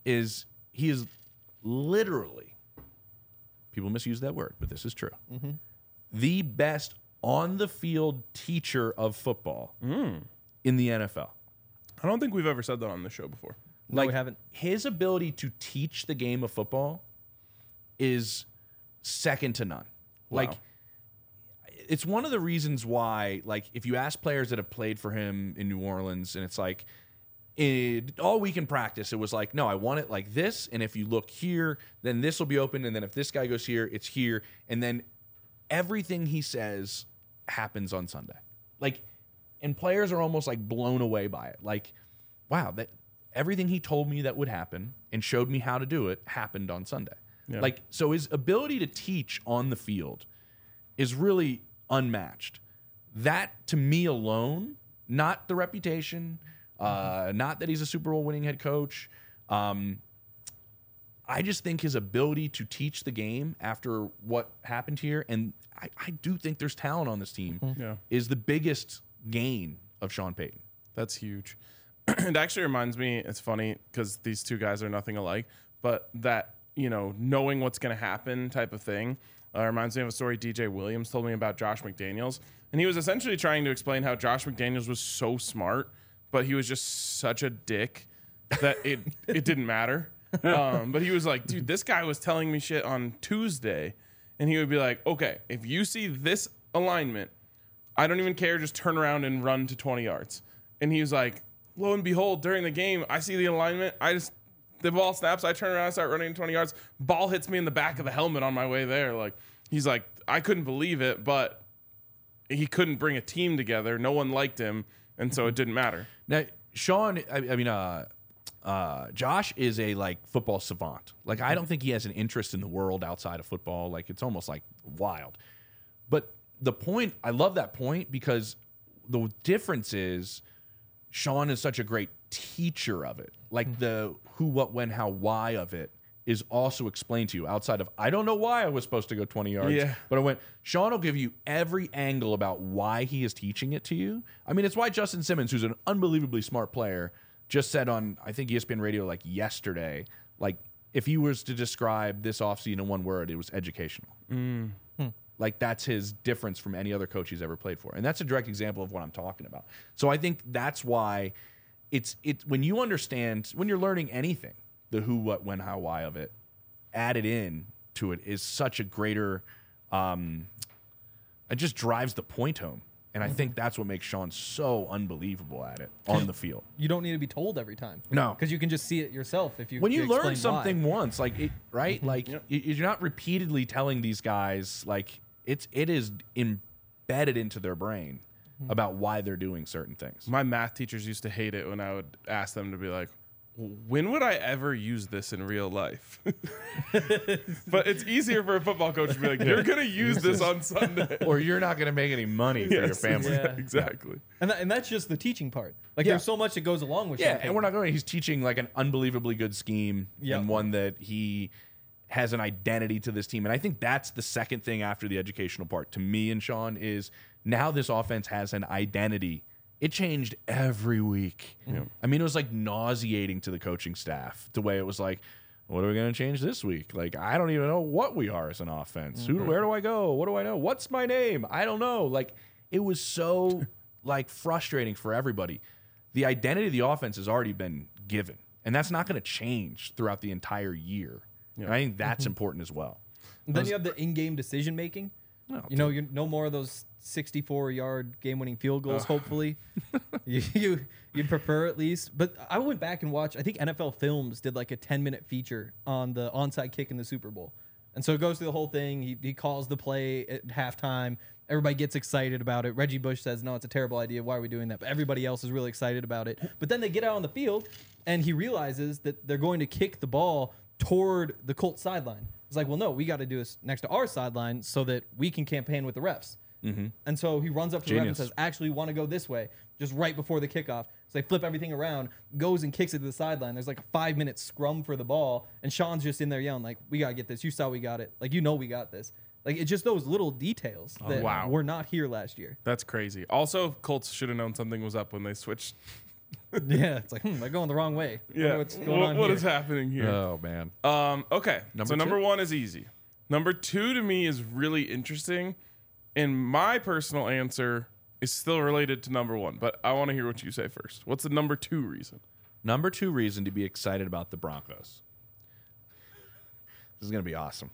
is he is literally, people misuse that word, but this is true, mm-hmm. the best on-the-field teacher of football mm. in the N F L. I don't think we've ever said that on this show before. No, Like, we haven't. His ability to teach the game of football is second to none. Wow. Like, it's one of the reasons why, like, if you ask players that have played for him in New Orleans, and it's like, it, all week in practice, it was like, no, I want it like this, and if you look here, then this will be open, and then if this guy goes here, it's here, and then everything he says happens on Sunday. Like, and players are almost like blown away by it. Like, wow, that everything he told me that would happen and showed me how to do it happened on Sunday. Yeah. Like, so his ability to teach on the field is really unmatched. That, to me alone, not the reputation, uh, not that he's a Super Bowl winning head coach. Um, I just think his ability to teach the game after what happened here, and I, I do think there's talent on this team, Yeah. is the biggest gain of Sean Payton. That's huge. It actually reminds me, it's funny because these two guys are nothing alike, but that, you know, knowing what's going to happen type of thing uh, reminds me of a story D J Williams told me about Josh McDaniels. And he was essentially trying to explain how Josh McDaniels was so smart, but he was just such a dick that it, it didn't matter. Um, but he was like, dude, this guy was telling me shit on Tuesday. And he would be like, okay, if you see this alignment, I don't even care. Just turn around and run to twenty yards. And he was like, lo and behold, during the game, I see the alignment. I just, the ball snaps. I turn around, I start running twenty yards. Ball hits me in the back of the helmet on my way there. Like, he's like, I couldn't believe it, but he couldn't bring a team together. No one liked him. And so it didn't matter. Now, Sean, I, I mean, uh, uh, Josh is a like football savant. Like, I don't think he has an interest in the world outside of football. Like, it's almost like wild. But the point, I love that point because the difference is Sean is such a great teacher of it. Like the who, what, when, how, why of it is also explained to you outside of, I don't know why I was supposed to go twenty yards. Yeah. But I went, Sean will give you every angle about why he is teaching it to you. I mean, it's why Justin Simmons, who's an unbelievably smart player, just said on, I think, E S P N Radio like yesterday, like if he was to describe this offseason in one word, it was educational. Mm. Like, that's his difference from any other coach he's ever played for. And that's a direct example of what I'm talking about. So I think that's why it's it when you understand, when you're learning anything, the who, what, when, how, why of it, added in to it is such a greater, um, it just drives the point home. And I think that's what makes Sean so unbelievable at it on the field. You don't need to be told every time. No. Because you can just see it yourself if you When you you learn explain something why. once, like it, right? Like Yep. y- you're not repeatedly telling these guys, like it's it is embedded into their brain about why they're doing certain things. My math teachers used to hate it when I would ask them to be like, when would I ever use this in real life? But it's easier for a football coach to be like, you're going to use this on Sunday. Or you're not going to make any money for your Yes, family. Yeah. Exactly. And, that, and that's just the teaching part. Like, Yeah. there's so much that goes along with Yeah, Sean and we're Payton. not going. He's teaching like an unbelievably good scheme Yep. and one that he has an identity to this team. And I think that's the second thing after the educational part to me and Sean is now this offense has an identity. It changed every week. I mean, it was like nauseating to the coaching staff the way it was like, what are we going to change this week? Like, I don't even know what we are as an offense. Who, where do I go? What do I know? What's my name? I don't know. Like, it was so like frustrating for everybody. The identity of the offense has already been given, and that's not going to change throughout the entire year. And I think that's important as well. And then you have the in-game decision making. Oh, you know, you no more of those sixty-four yard game-winning field goals. Hopefully, you, you you'd prefer at least. But I went back and watched. I think N F L Films did like a ten minute feature on the onside kick in the Super Bowl, and so it goes through the whole thing. He he calls the play at halftime. Everybody gets excited about it. Reggie Bush says, "No, it's a terrible idea. Why are we doing that?" But everybody else is really excited about it. But then they get out on the field, and he realizes that they're going to kick the ball toward the Colts sideline. It's like, well, no, we got to do this next to our sideline so that we can campaign with the refs. Mm-hmm. And so he runs up to the ref and Genius. says, actually, we want to go this way, just right before the kickoff. So they flip everything around, goes and kicks it to the sideline. There's like a five minute scrum for the ball, and Sean's just in there yelling, like, we got to get this. You saw we got it. Like, you know we got this. Like, it's just those little details that wow. were not here last year. That's crazy. Also, Colts should have known something was up when they switched Yeah, it's like, hmm, they're going the wrong way. Wonder Yeah, what's going what, on what here. is happening here? Oh man. Um, okay, Number so number two? one is easy. Number two to me is really interesting, and my personal answer is still related to number one, but I want to hear what you say first. What's the number two reason? Number two reason to be excited about the Broncos. This is going to be awesome.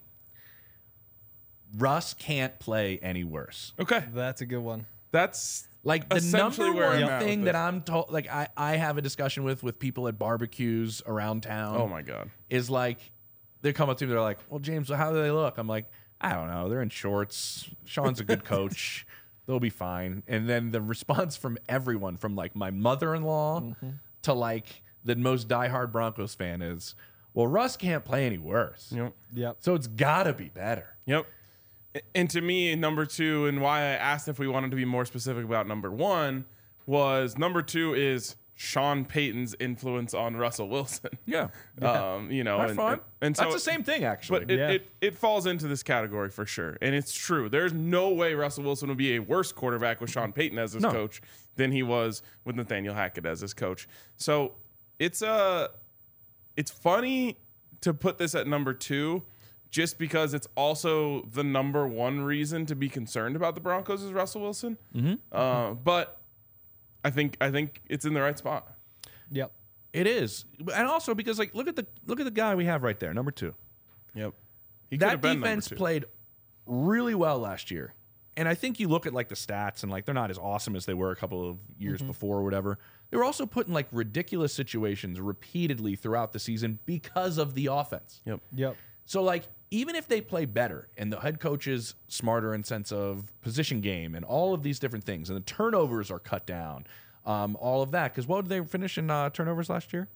Russ can't play any worse. Okay, That's a good one. that's Like the essentially number where one I'm at thing with that this. I'm told, like I, I have a discussion with with people at barbecues around town. Oh my god. Is like they come up to me, they're like, "Well, James, how do they look?" I'm like, "I don't know. They're in shorts. Sean's a good coach. They'll be fine." And then the response from everyone, from like my mother-in-law Mm-hmm. to like the most diehard Broncos fan, is, "Well, Russ can't play any worse, Yep. Yep. so it's got to be better." Yep. And to me, number two, and why I asked if we wanted to be more specific about number one, was number two is Sean Payton's influence on Russell Wilson. Yeah, Um, you know, that's and, fine. and, and so That's the same thing, actually. But it, Yeah. it, it falls into this category for sure. And it's true. There's no way Russell Wilson would be a worse quarterback with Sean Payton as his No. coach than he was with Nathaniel Hackett as his coach. So it's uh, it's funny to put this at number two just because it's also the number one reason to be concerned about the Broncos is Russell Wilson. Mm-hmm. Uh, but I think I think it's in the right spot. Yep. It is, and also because like look at the look at the guy we have right there, number two. Yep. He could That have been number defense two. played really well last year. And I think you look at like the stats and like they're not as awesome as they were a couple of years before or whatever. They were also put in like ridiculous situations repeatedly throughout the season because of the offense. Yep. Yep. So like even if they play better and the head coach is smarter in sense of position game and all of these different things and the turnovers are cut down, um, all of that. Because what did they finish in uh, turnovers last year?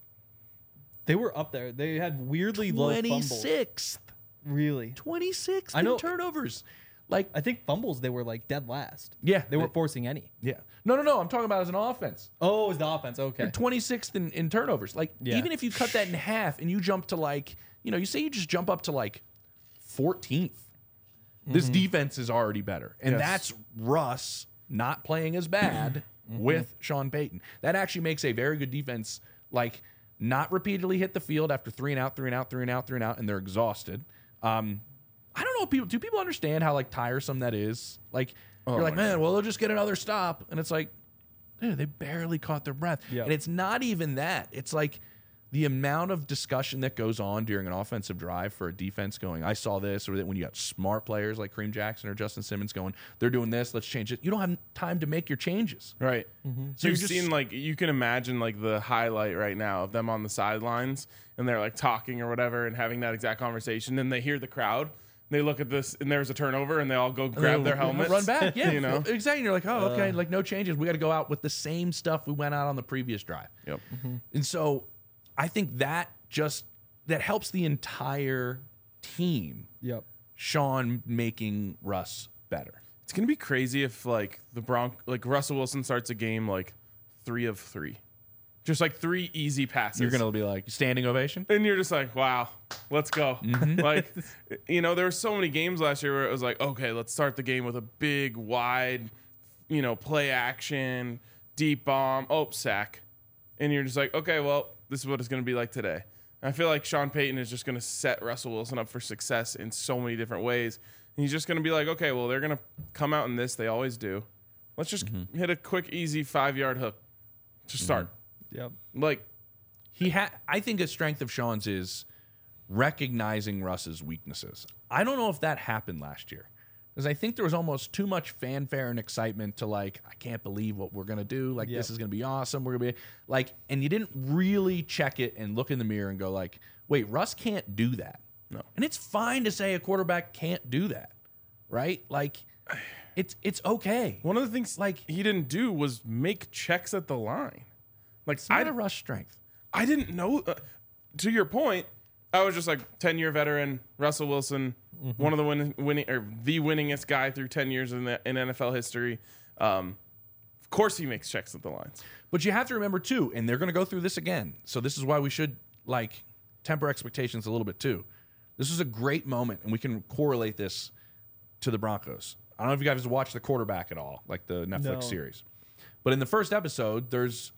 They were up there. They had weirdly low fumbles. twenty-sixth. Really. twenty-sixth I know- in turnovers. Like I think fumbles, they were like dead last. Yeah, They weren't they- forcing any. Yeah. No, no, no. I'm talking about as an offense. Oh, it was the offense. Okay. You're twenty-sixth in, in turnovers. Like, Yeah. even if you cut that in half and you jump to like, you know, you say you just jump up to like fourteenth, this defense is already better. And Yes. that's Russ not playing as bad with Sean Payton. That actually makes a very good defense, like, not repeatedly hit the field after three and out, three and out, three and out, three and out, and they're exhausted. Um, I don't know if people do people understand how like tiresome that is? Like you're like, my man, well, they'll just get another stop. And it's like, dude, they barely caught their breath. Yeah. And it's not even that. It's like the amount of discussion that goes on during an offensive drive for a defense going, I saw this, or that when you got smart players like Kareem Jackson or Justin Simmons going, they're doing this, let's change it. You don't have time to make your changes. Right. So So you've you're just- seen like you can imagine like the highlight right now of them on the sidelines and they're like talking or whatever and having that exact conversation. And they hear the crowd. They look at this and there's a turnover and they all go grab their helmets, Run back. Yeah. you know. Exactly. And you're like, oh, okay, like no changes. We got to go out with the same stuff we went out on the previous drive. Yep. And so I think that just that helps the entire team. Yep. Sean making Russ better. It's gonna be crazy if like the Bronc like Russell Wilson starts a game like three of three, just like three easy passes. You're gonna be like standing ovation. and you're just like, wow, let's go. Like, you know, there were so many games last year where it was like, okay, let's start the game with a big, wide, you know, play action, deep bomb, oh, sack. And you're just like, okay, well, this is what it's going to be like today. And I feel like Sean Payton is just going to set Russell Wilson up for success in so many different ways. And he's just going to be like, okay, well, they're going to come out in this. They always do. Let's just hit a quick, easy five-yard hook to start. Yep. Like, He had. I think a strength of Sean's is recognizing Russ's weaknesses. I don't know if that happened last year because I think there was almost too much fanfare and excitement to like, I can't believe what we're gonna do. Like Yep. this is gonna be awesome. We're gonna be like, and you didn't really check it and look in the mirror and go like, wait, Russ can't do that. No. And it's fine to say a quarterback can't do that, right? Like, it's it's okay. one of the things Like- he didn't do was make checks at the line. Like, It's not I, a Russ strength. I didn't know. Uh, to your point, I was just like ten-year veteran Russell Wilson, one of the win- winning or the winningest guy through ten years in, the, in N F L history. Um, of course, he makes checks at the lines. But you have to remember too, and they're going to go through this again. So this is why we should like temper expectations a little bit too. This is a great moment, and we can correlate this to the Broncos. I don't know if you guys watched The Quarterback at all, like the Netflix No. series. But in the first episode, there's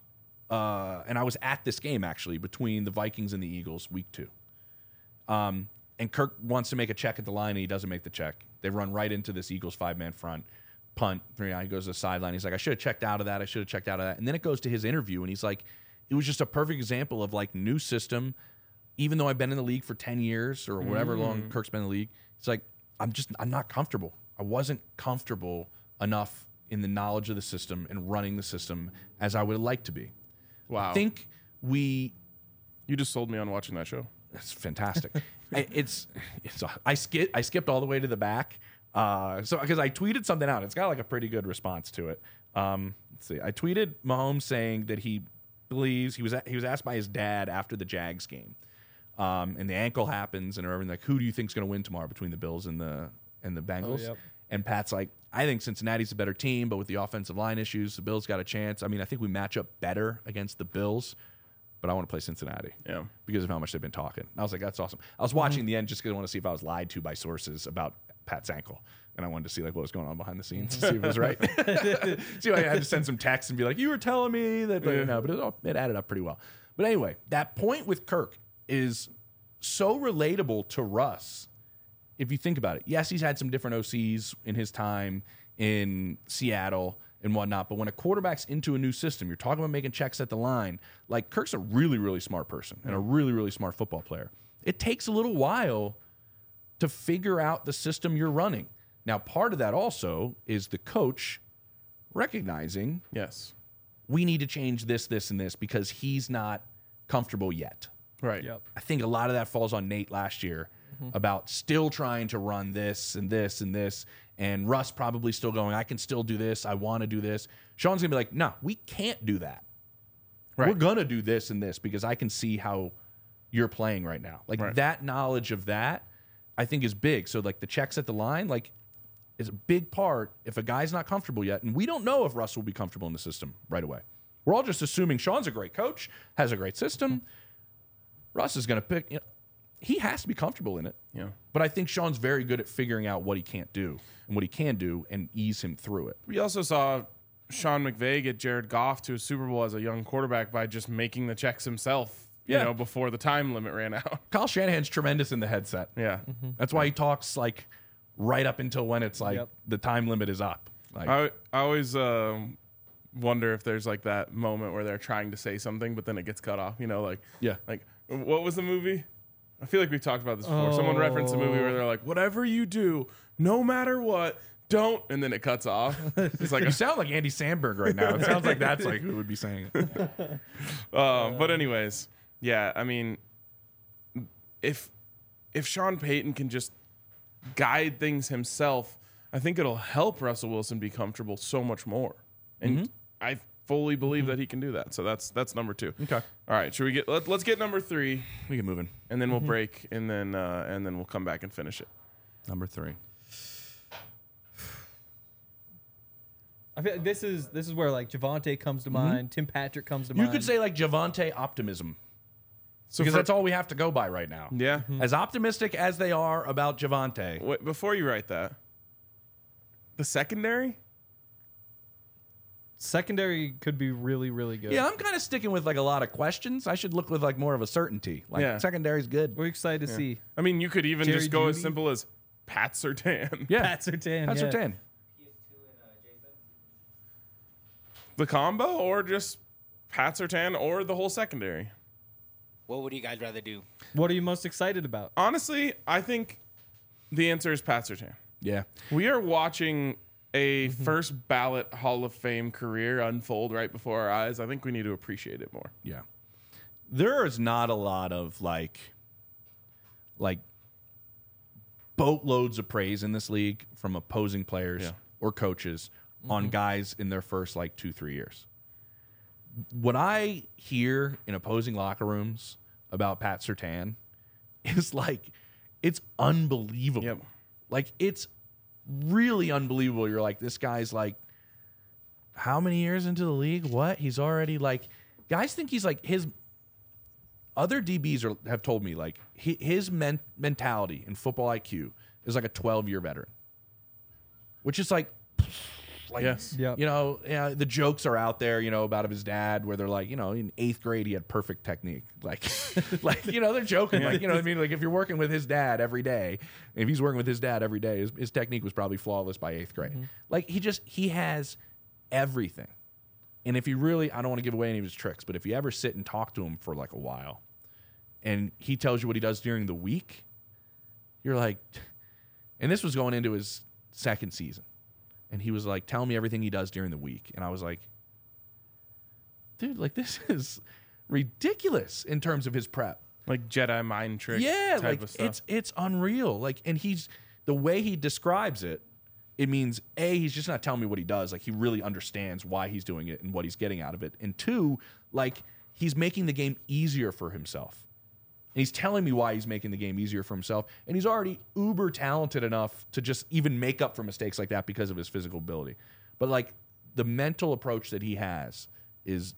uh, and I was at this game actually between the Vikings and the Eagles, week two. Um, and Kirk wants to make a check at the line, and he doesn't make the check. They run right into this Eagles five-man front, punt. Three, he goes to the sideline. He's like, I should have checked out of that. I should have checked out of that. And then it goes to his interview, and he's like, it was just a perfect example of like new system. Even though I've been in the league for ten years or whatever mm. long Kirk's been in the league, it's like, I'm just, I'm not comfortable. I wasn't comfortable enough in the knowledge of the system and running the system as I would like to be. Wow. I think we... You just sold me on watching that show. It's fantastic. I, it's, it's, I, skip, I skipped all the way to the back. Uh, so, because I tweeted something out. It's got like a pretty good response to it. Um, let's see. I tweeted Mahomes saying that he believes, he was, he was asked by his dad after the Jags game. Um, and the ankle happens, and everything like, who do you think's going to win tomorrow between the Bills and the and the Bengals? Oh, yep. And Pat's like, I think Cincinnati's a better team, but with the offensive line issues, the Bills got a chance. I mean, I think we match up better against the Bills, but I want to play Cincinnati. Yeah, because of how much they've been talking. I was like, that's awesome. I was watching mm-hmm. the end just because I want to see if I was lied to by sources about Pat's ankle, and I wanted to see like what was going on behind the scenes, see if it was right. See, I had to send some texts and be like, you were telling me that, yeah. no, but it, it added up pretty well. But anyway, that point with Kirk is so relatable to Russ if you think about it. Yes, he's had some different O Cs in his time in Seattle and whatnot, but when a quarterback's into a new system, you're talking about making checks at the line. Like, Kirk's a really, really smart person and a really, really smart football player. It takes a little while to figure out the system you're running. Now, part of that also is the coach recognizing, yes, we need to change this, this, and this because he's not comfortable yet. Right. Yep. I think a lot of that falls on Nate last year mm-hmm. about still trying to run this and this and this, and Russ probably still going, I can still do this. I want to do this. Sean's going to be like, no, we can't do that. Right. We're going to do this and this because I can see how you're playing right now. Like right. that knowledge of that, I think is big. So like the checks at the line, like is a big part if a guy's not comfortable yet. And we don't know if Russ will be comfortable in the system right away. We're all just assuming Sean's a great coach, has a great system. Russ is going to pick, you know, he has to be comfortable in it. Yeah. But I think Sean's very good at figuring out what he can't do and what he can do and ease him through it. We also saw Sean McVay get Jared Goff to a Super Bowl as a young quarterback by just making the checks himself, you yeah. know, before the time limit ran out. Kyle Shanahan's tremendous in the headset. Yeah. Mm-hmm. That's why he talks like right up until when it's like yep. the time limit is up. Like, I, I always uh, wonder if there's like that moment where they're trying to say something, but then it gets cut off, you know, like, yeah. like what was the movie? I feel like we talked about this before. Oh. Someone referenced a movie where they're like, whatever you do, no matter what, don't, and then it cuts off. It's like you sound like Andy Samberg right now. It sounds like that's like who would be saying it. uh, but anyways, yeah, I mean, if if Sean Payton can just guide things himself, I think it'll help Russell Wilson be comfortable so much more. And mm-hmm. I fully believe mm-hmm. that he can do that. So that's that's number two. Okay. All right. Should we get? Let, let's get number three. We get moving, and then we'll mm-hmm. break, and then uh, and then we'll come back and finish it. Number three. I feel like this is this is where like Javonte comes to mm-hmm. mind, Tim Patrick comes to you mind. You could say like Javonte optimism. So because for, that's all we have to go by right now. Yeah. Mm-hmm. As optimistic as they are about Javonte. Wait, before you write that, the secondary? Secondary could be really, really good. Yeah, I'm kind of sticking with like a lot of questions. I should look with like more of a certainty. Like yeah. secondary's good. We're excited to yeah. see. I mean, you could even Jerry just go Jeudy? as simple as Pat Surtain. Yeah. Pat Surtain. Pat yeah. Surtain. The combo, or just Pat Surtain, or the whole secondary? What would you guys rather do? What are you most excited about? Honestly, I think the answer is Pat Surtain. Yeah. We are watching a mm-hmm. first ballot Hall of Fame career unfold right before our eyes. I think we need to appreciate it more. Yeah. There is not a lot of like, like boatloads of praise in this league from opposing players yeah. or coaches mm-hmm. on guys in their first like two, three years. What I hear in opposing locker rooms about Pat Surtain is like, it's unbelievable. Yep. Like, it's really unbelievable. You're like, this guy's like, how many years into the league? What? He's already like, guys think he's like, his other D Bs are, have told me like he, his men, mentality and football I Q is like a twelve year veteran, which is like, Like, Yes. Yep. you know, yeah, the jokes are out there, you know, about his dad, where they're like, you know, in eighth grade he had perfect technique. Like, like you know, they're joking, like, you know what I mean? Like, if you're working with his dad every day, if he's working with his dad every day, his, his technique was probably flawless by eighth grade. Like, he just he has everything. And if you really, I don't want to give away any of his tricks, but if you ever sit and talk to him for like a while, and he tells you what he does during the week, you're like, and this was going into his second season. And he was like, telling me everything he does during the week. And I was like, dude, like, this is ridiculous in terms of his prep. Like Jedi mind trick Yeah, type like, of stuff. it's it's unreal. Like, and he's, the way he describes it, it means, A, he's just not telling me what he does. Like, he really understands why he's doing it and what he's getting out of it. And two, like, he's making the game easier for himself. And he's telling me why he's making the game easier for himself. And he's already uber talented enough to just even make up for mistakes like that because of his physical ability. But, like, the mental approach that he has is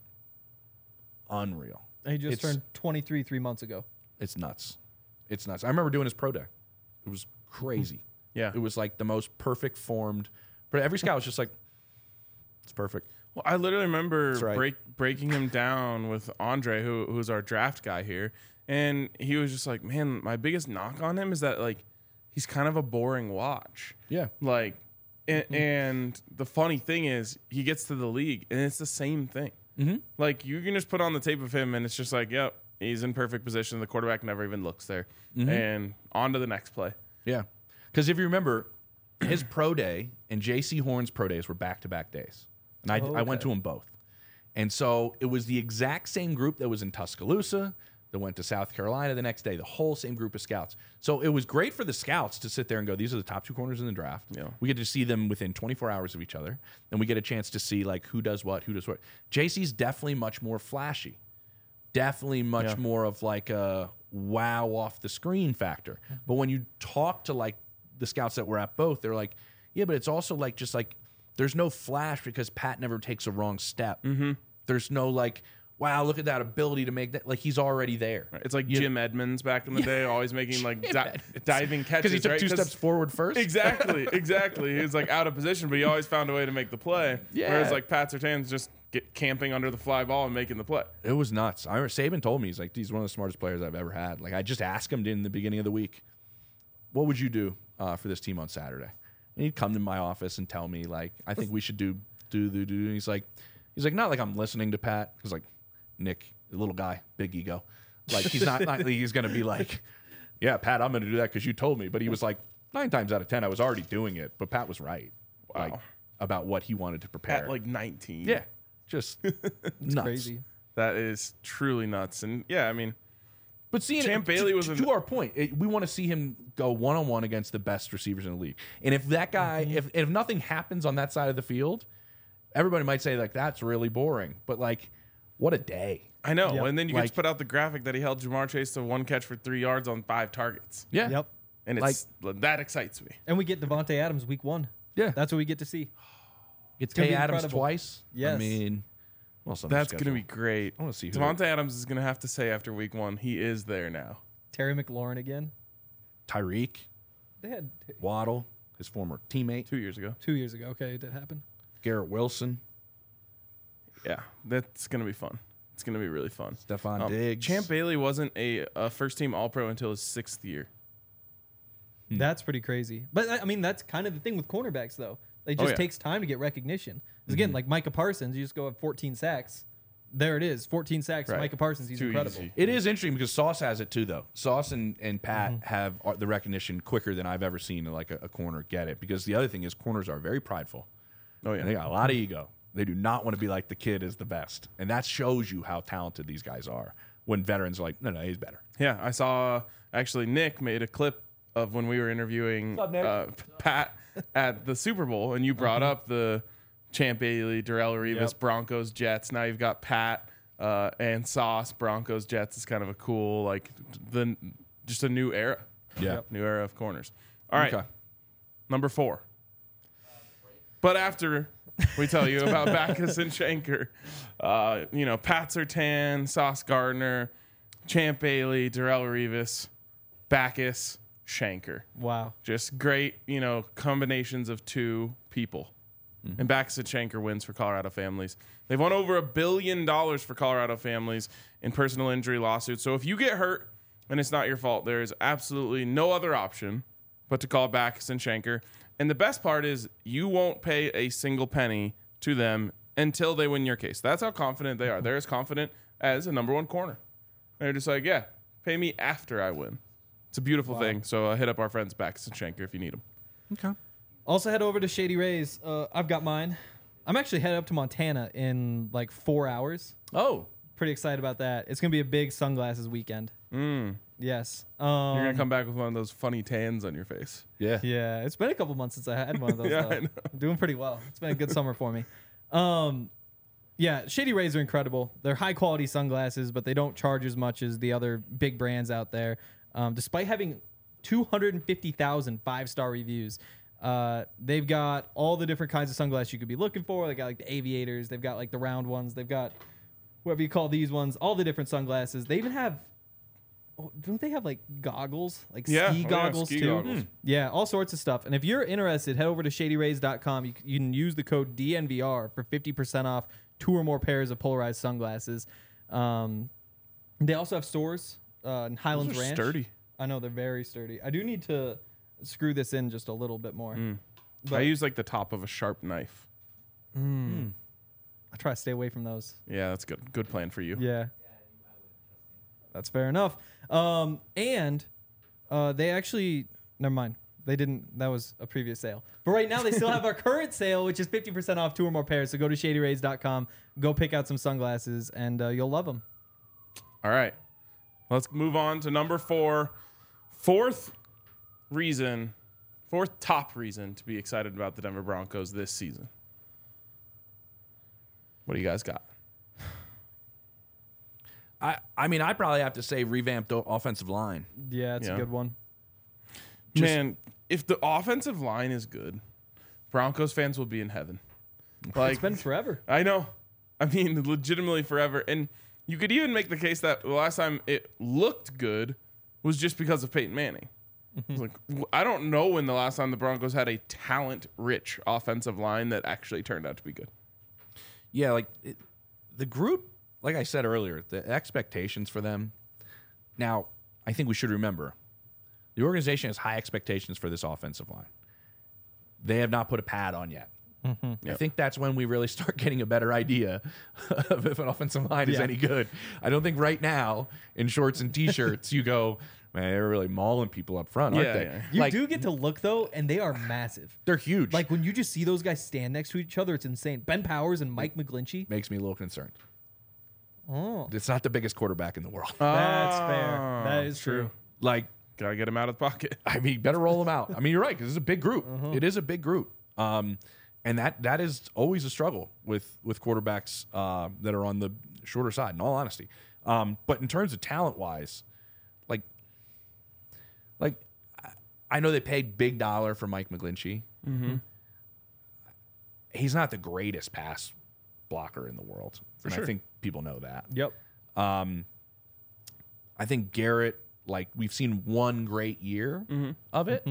unreal. And he just It's- turned twenty-three three months ago. It's nuts. It's nuts. I remember doing his pro day. It was crazy. Yeah. It was like the most perfect formed. But every scout was just like, it's perfect. Well, I literally remember That's right. break, breaking him down with Andre, who who's our draft guy here, and he was just like, "Man, my biggest knock on him is that like he's kind of a boring watch." Yeah. Like, and, Mm-hmm. and the funny thing is, he gets to the league, and it's the same thing. Mm-hmm. Like, you can just put on the tape of him, and it's just like, "Yep, he's in perfect position. The quarterback never even looks there," Mm-hmm. and on to the next play. Yeah. Because if you remember, his pro day and J C Horn's pro days were back to back days. And I, Oh, I went okay. to them both. And so it was the exact same group that was in Tuscaloosa, that went to South Carolina the next day, the whole same group of scouts. So it was great for the scouts to sit there and go, these are the top two corners in the draft. Yeah. We get to see them within twenty-four hours of each other. And we get a chance to see like who does what, who does what. J C's definitely much more flashy. Definitely much Yeah. more of like a wow off the screen factor. But when you talk to like the scouts that were at both, they're like, yeah, but it's also like just like there's no flash because Pat never takes a wrong step. Mm-hmm. There's no like, wow, look at that ability to make that. Like he's already there. It's like You- Jim Edmonds back in the day, always making like di- diving catches. Because he took right? two 'Cause- steps forward first. Exactly, exactly. He was like out of position, but he always found a way to make the play. Yeah. Whereas like Pat Surtain's just get camping under the fly ball and making the play. It was nuts. I remember Saban told me, he's like, he's one of the smartest players I've ever had. Like I just asked him in the beginning of the week, what would you do uh, for this team on Saturday? And he'd come to my office and tell me like, I think we should do do do do. And he's like, he's like, not like I'm listening to Pat. He's like, Nick, the little guy, big ego. Like he's not, not like he's gonna be like, yeah, Pat, I'm gonna do that because you told me. But he was like, nine times out of ten, I was already doing it. But Pat was right. Wow. Like about what he wanted to prepare. At like nineteen. yeah, just nuts. Crazy. That is truly nuts. And yeah, I mean, But seeing Champ it, Bailey to, was to, an- to our point, it, we want to see him go one on one against the best receivers in the league. And if that guy, Mm-hmm. if if nothing happens on that side of the field, everybody might say like that's really boring. But like, what a day! I know. Yep. And then you Like- get to put out the graphic that he held Jamar Chase to one catch for three yards on five targets. Yeah, Yep. And it's that excites me. And we get Devontae Adams week one. yeah. That's what we get to see. It's gonna Tay be Adams incredible. twice. I Yes. mean, well, some That's going to be great. I wanna see who- Devontae Adams is going to have to say after week one, he is there now. Terry McLaurin again. Tyreek, They had Waddle, his former teammate, Two years ago. two years ago. Okay, it did happen. Garrett Wilson, Yeah, that's going to be fun. It's going to be really fun. Stephon Um, Diggs. Champ Bailey wasn't a, a first team All Pro until his sixth year. Hmm. That's pretty crazy. But I I mean, that's kind of the thing with cornerbacks, though. It just yeah. takes time to get recognition. 'Cause Mm-hmm. again, like Micah Parsons, you just go have fourteen sacks. There it is, fourteen sacks. Right. Micah Parsons, he's Too incredible. easy. It is interesting because Sauce has it too, though. Sauce and, and Pat Mm-hmm. have uh, the recognition quicker than I've ever seen like a, a corner get it. Because the other thing is corners are very prideful. Oh, And they yeah. got a lot of ego. They do not want to be like the kid is the best. And that shows you how talented these guys are when veterans are like, no, no, he's better. Yeah, I saw actually Nick made a clip of when we were interviewing What's up, Nick? uh, Pat at the Super Bowl, and you brought up the Champ Bailey, Darrell Revis, Yep. Broncos, Jets. Now you've got Pat uh, and Sauce, Broncos, Jets. Is kind of a cool, like, the just a new era. Yeah. Yep. New era of corners. All right, Okay. number four. But after we tell you about Backus and Shanker, uh, you know, Pat Surtain, Sauce Gardner, Champ Bailey, Darrell Revis, Backus, Shanker. Wow. Just great, you know, combinations of two people. And Baxter Shanker wins for Colorado families. They've won over a billion dollars for Colorado families in personal injury lawsuits. So if you get hurt and it's not your fault, there is absolutely no other option but to call Baxter Shanker. And the best part is you won't pay a single penny to them until they win your case. That's how confident they are. They're as confident as a number one corner. They're just like, yeah, pay me after I win. It's a beautiful wow. thing. So uh, hit up our friends Baxter Shanker if you need them. Okay. Also head over to Shady Rays. Uh, I've got mine. I'm actually headed up to Montana in like four hours. Oh. Pretty excited about that. It's going to be a big sunglasses weekend. Mm. Yes. Um, You're going to come back with one of those funny tans on your face. Yeah. Yeah. It's been a couple months since I had one of those. yeah, though. I know. I'm doing pretty well. It's been a good summer for me. Um, yeah, Shady Rays are incredible. They're high quality sunglasses, but they don't charge as much as the other big brands out there. Um, despite having two hundred fifty thousand five-star reviews. Uh, they've got all the different kinds of sunglasses you could be looking for. They got like the aviators. They've got like the round ones. They've got whatever you call these ones. All the different sunglasses. They even have. Oh, don't they have like goggles, like yeah. ski oh, goggles yeah, ski too? Goggles. Mm. Yeah, all sorts of stuff. And if you're interested, head over to shady rays dot com. You, you can use the code D N V R for fifty percent off two or more pairs of polarized sunglasses. Um, they also have stores uh, in Highlands Those are Ranch. Sturdy. I know they're very sturdy. I do need to screw this in just a little bit more. Mm. But I use like the top of a sharp knife. Mm. I try to stay away from those. Yeah, that's good. Good plan for you. Yeah. That's fair enough. Um, and uh, they actually, never mind. They didn't, that was a previous sale. But right now they still have our current sale, which is fifty percent off two or more pairs. So go to shady rays dot com, go pick out some sunglasses, and uh, you'll love them. All right. Let's move on to number four. Fourth reason, fourth top reason to be excited about the Denver Broncos this season. What do you guys got? I, I mean, I probably have to say revamped o- offensive line. Yeah, it's Yeah. a good one. Just- Man, if the offensive line is good, Broncos fans will be in heaven. Like, It's been forever. I know. I mean, legitimately forever. And you could even make the case that the last time it looked good was just because of Peyton Manning. It's like, w- I don't know when the last time the Broncos had a talent-rich offensive line that actually turned out to be good. Yeah, like it, the group, like I said earlier, the expectations for them. Now, I think we should remember the organization has high expectations for this offensive line. They have not put a pad on yet. I Yep. think that's when we really start getting a better idea of if an offensive line is Yeah. any good. I don't think right now in shorts and t-shirts you go, man, they're really mauling people up front, aren't Yeah, they? yeah. You Like, do get to look, though, and they are massive. they're huge. Like, when you just see those guys stand next to each other, it's insane. Ben Powers and Mike McGlinchey. makes me a little concerned. Oh, It's not the biggest quarterback in the world. that's fair. Oh, That is true. Like, Gotta get him out of the pocket. I mean, better roll them out. I mean, you're right, because it's a big group. It is a big group. Um, and that that is always a struggle with with quarterbacks uh, that are on the shorter side, in all honesty. Um, but in terms of talent-wise, like, like I- I know they paid big dollar for Mike McGlinchey. Mm-hmm. He's not the greatest pass blocker in the world. For and sure. I think people know that. Yep. Um, I think Garrett, like we've seen one great year of it.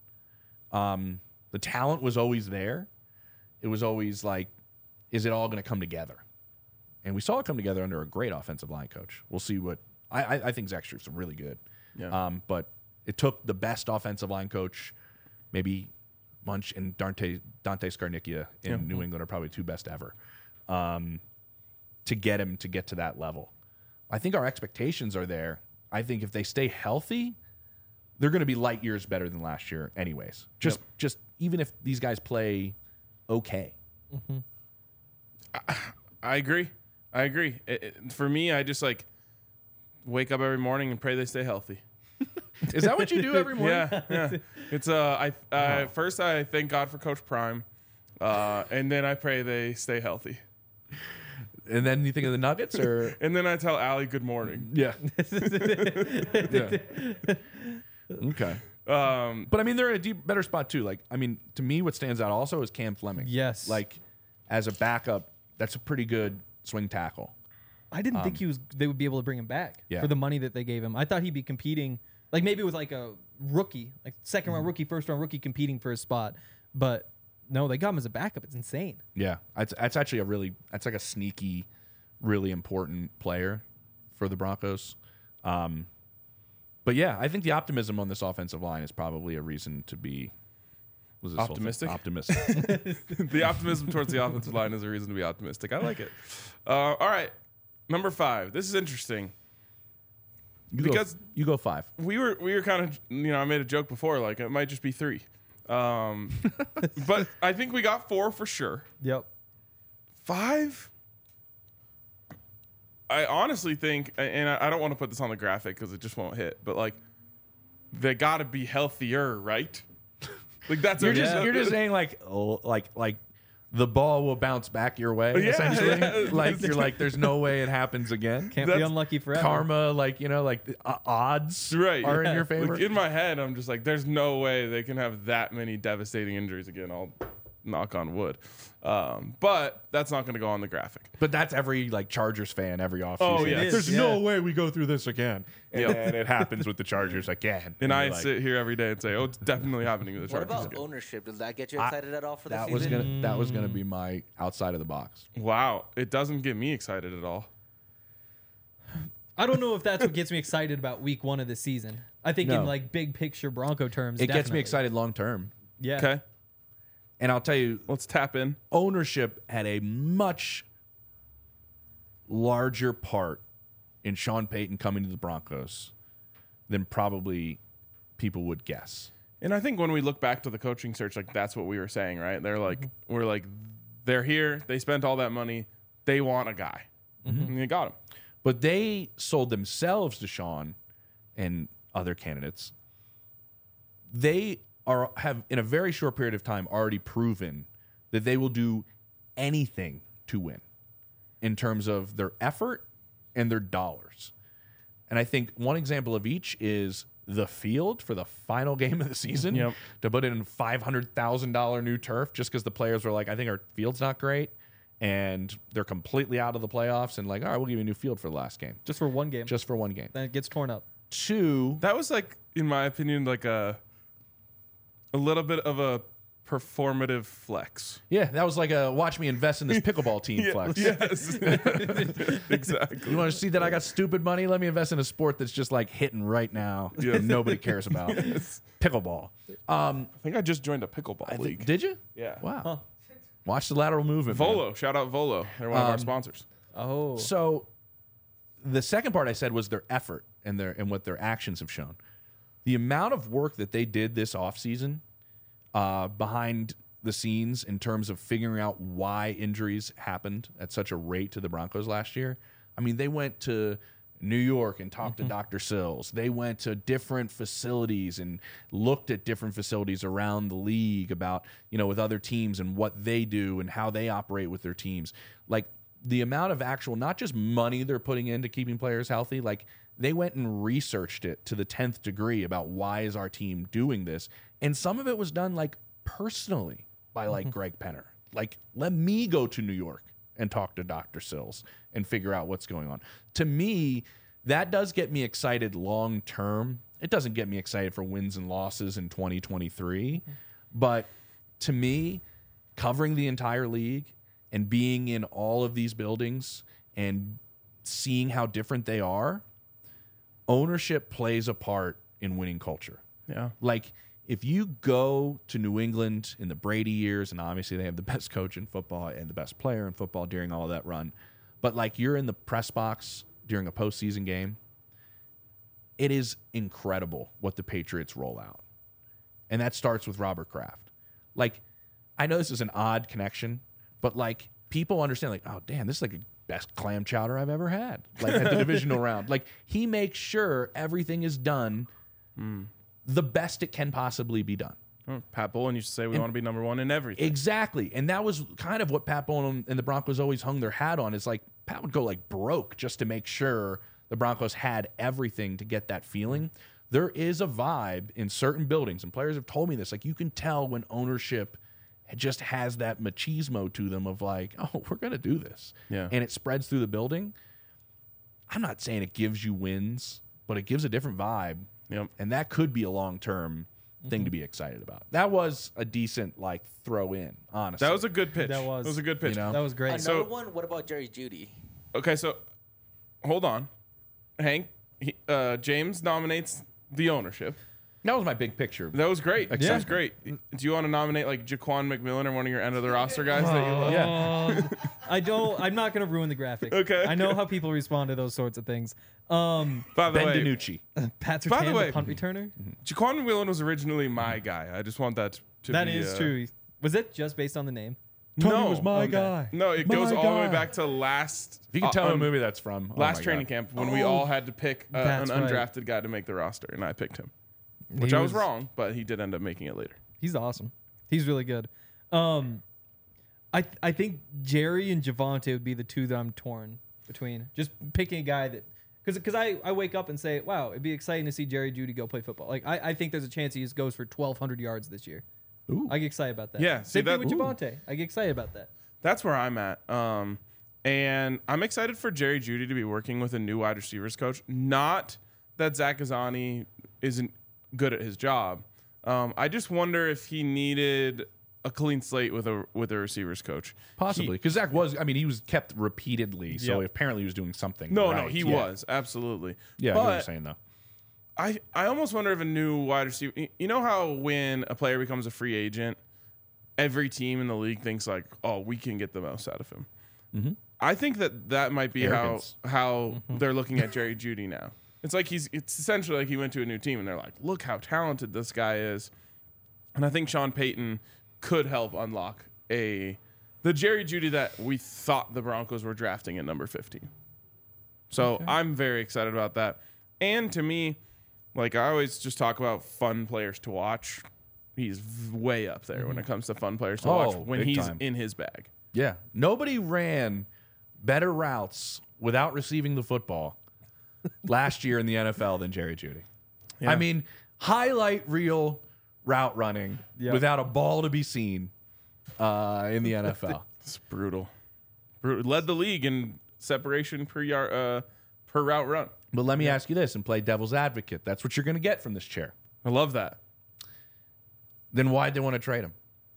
Um, the talent was always there. It was always like, is it all going to come together? And we saw it come together under a great offensive line coach. We'll see what I, I, I think Zach Struth's really good. Yeah. Um, but it took the best offensive line coach, maybe Munch and Dante Dante Scarnicchia in Yeah. New England are probably two best ever, um, to get him to get to that level. I think our expectations are there. I think if they stay healthy, they're going to be light years better than last year, anyways. Just, just even if these guys play okay. I agree. I agree. It, it- for me, I just like wake up every morning and pray they stay healthy. Is that what you do every morning? Yeah, yeah. It's uh, I uh, first I thank God for Coach Prime, uh, and then I pray they stay healthy, And then you think of the Nuggets, or and then I tell Allie good morning. yeah, yeah. Okay. Um, But I mean, they're in a deep, better spot too. Like, I mean, to me, what stands out also is Cam Fleming. Yes. Like, as a backup, that's a pretty good swing tackle. I didn't think he was. They would be able to bring him back Yeah. for the money that they gave him. I thought he'd be competing, like maybe with like a rookie, like second round rookie, first round rookie, competing for a spot. But No, they got him as a backup. It's insane. Yeah, that's, that's actually a really that's like a sneaky, really important player for the Broncos. Um, but yeah, I think the optimism on this offensive line is probably a reason to be was this whole thing? Optimistic? Optimistic. The optimism towards the offensive line is a reason to be optimistic. I like it. Uh, all right, number five. This is interesting. You Because- go, you go five. We were we were kind of, you know, I made a joke before, like it might just be three. Um, but I think we got four for sure. Yep. Five? I honestly think, and I I don't want to put this on the graphic because it just won't hit, but like they got to be healthier, right? Like that's You're a- just yeah. you're just saying like oh, like like the ball will bounce back your way. Yeah, essentially, yeah. like you're like there's no way it happens again. Can't be That's unlucky forever. Karma, like you know, like the, uh, odds Right. are Yeah. in your favor. Like in my head, I'm just like, there's no way they can have that many devastating injuries again. I'll knock on wood. Um, but that's not going to go on the graphic. But that's every like Chargers fan every offseason. Oh, Like, yeah. It is, there's yeah. no way we go through this again. And Yep. then it happens with the Chargers again. And I you're like, sit here every day and say, oh, it's definitely happening to the What Chargers about again. ownership? Does that get you I- excited at all for the that was season? gonna that was gonna be my outside of the box. Wow. It doesn't get me excited at all. I don't know if that's what gets me excited about week one of the season. I think No. in like big picture Bronco terms, It gets me definitely. excited long term. Yeah. Okay. And I'll tell you, Let's tap in. ownership had a much larger part in Sean Payton coming to the Broncos than probably people would guess. And I think when we look back to the coaching search, like that's what we were saying, right? They're like, we're like, they're here. They spent all that money. They want a guy. And they got him. But they sold themselves to Sean and other candidates. They are have in a very short period of time already proven that they will do anything to win in terms of their effort and their dollars. And I think one example of each is the field for the final game of the season. Yep. To put in five hundred thousand dollars new turf just because the players were like, I think our field's not great. And they're completely out of the playoffs. And like, all right, we'll give you a new field for the last game. Just for one game. Just for one game. then it gets torn up. Two, That was like, in my opinion, like a a little bit of a performative flex. yeah, that was like a watch me invest in this pickleball team flex. Yes. Exactly. You want to see that I got stupid money? Let me invest in a sport that's just like hitting right now Yes. and nobody cares about. Pickleball. Um, I think I just joined a pickleball league. did you? Yeah. Wow. Watch the lateral movement. man. Volo. Shout out Volo. They're one of our sponsors. Oh. So the second part I said was their effort and their and what their actions have shown. The amount of work that they did this offseason uh, behind the scenes in terms of figuring out why injuries happened at such a rate to the Broncos last year. I mean, they went to New York and talked to Doctor Sills. They went to different facilities and looked at different facilities around the league about, you know, with other teams and what they do and how they operate with their teams. Like the amount of actual, not just money they're putting into keeping players healthy, like they went and researched it to the tenth degree about why is our team doing this. And some of it was done like personally by like Greg Penner. Like, let me go to New York and talk to Doctor Sills and figure out what's going on. To me, that does get me excited long term. It doesn't get me excited for wins and losses in twenty twenty-three. But to me, covering the entire league and being in all of these buildings and seeing how different they are, ownership plays a part in winning culture. Yeah. Like, if you go to New England in the Brady years, and obviously they have the best coach in football and the best player in football during all of that run, but like you're in the press box during a postseason game, it is incredible what the Patriots roll out. And that starts with Robert Kraft. Like, I know this is an odd connection, but like people understand, like, oh, damn, this is like the best clam chowder I've ever had, like at the divisional round. Like, he makes sure everything is done the best it can possibly be done. Oh, Pat Bowlen used to say we want to be number one in everything. Exactly. And that was kind of what Pat Bowlen and the Broncos always hung their hat on. Is like Pat would go like broke just to make sure the Broncos had everything to get that feeling. There is a vibe in certain buildings, and players have told me this. Like, you can tell when ownership just has that machismo to them of like, oh, we're going to do this. Yeah. And it spreads through the building. I'm not saying it gives you wins, but it gives a different vibe. Yep. And that could be a long-term thing to be excited about. That was a decent like throw in, honestly. That was a good pitch. That was. That was a good pitch. You know? That was great. Another So- one. What about Jerry Judy? Okay, so hold on, Hank. He, uh, James nominates the ownership. That was my big picture. That was great. That Yeah. was great. Do you want to nominate like Jaquan McMillan or one of your end of the roster guys that you love? Yeah. I don't. I'm not going to ruin the graphic. Okay. I know how people respond to those sorts of things. Um, By the Ben way, DiNucci. Pat By Surtain, the the, way- punt returner. Jaquan McMillan was originally my guy. I just want that to That be. is uh, true. Was it just based on the name? No, Okay. guy. no, it My goes all the way guy. back to last. If you can uh, tell me um, what movie that's from. oh last my training God. camp when we all had to pick uh, an That's right. undrafted guy to make the roster, and I picked him, which He I was wrong, but he did end up making it later. He's awesome. He's really good. Um, I th- I think Jerry and Javante would be the two that I'm torn between. Just picking a guy that because because I, I wake up and say, wow, it'd be exciting to see Jerry Judy go play football. Like I, I think there's a chance he just goes for twelve hundred yards this year. Ooh. I get excited about that. Yeah, see same thing that- with ooh. Javante. I get excited about that. That's where I'm at. Um, and I'm excited for Jerry Judy to be working with a new wide receivers coach. Not that Zach Ghazzani isn't good at his job. Um, I just wonder if he needed a clean slate with a with a receivers coach. Possibly. Because Zach was, I mean, he was kept repeatedly. So Yep. apparently he was doing something. No, right. no, he Yeah. was absolutely. Yeah, I know what you're but saying, though. I, I almost wonder if a new wide receiver. You know how when a player becomes a free agent, every team in the league thinks like, oh, we can get the most out of him. Mm-hmm. I think that that might be Arrogance. how how they're looking at Jerry Judy now. It's like he's it's essentially like he went to a new team and they're like, look how talented this guy is. And I think Sean Payton could help unlock a the Jerry Judy that we thought the Broncos were drafting at number fifteen. So I'm very excited about that. And to me, like I always just talk about fun players to watch. He's v- way up there when it comes to fun players to watch Oh, when big he's time. in his bag. Yeah. Nobody ran better routes without receiving the football last year in the N F L than Jerry Judy. Yeah. I mean, highlight reel route running Yep. without a ball to be seen uh, in the N F L. It's brutal. brutal. Led the league in separation per yard, uh, per route run. But let me ask you this and play devil's advocate. That's what you're going to get from this chair. I love that. Then why'd they want to trade him?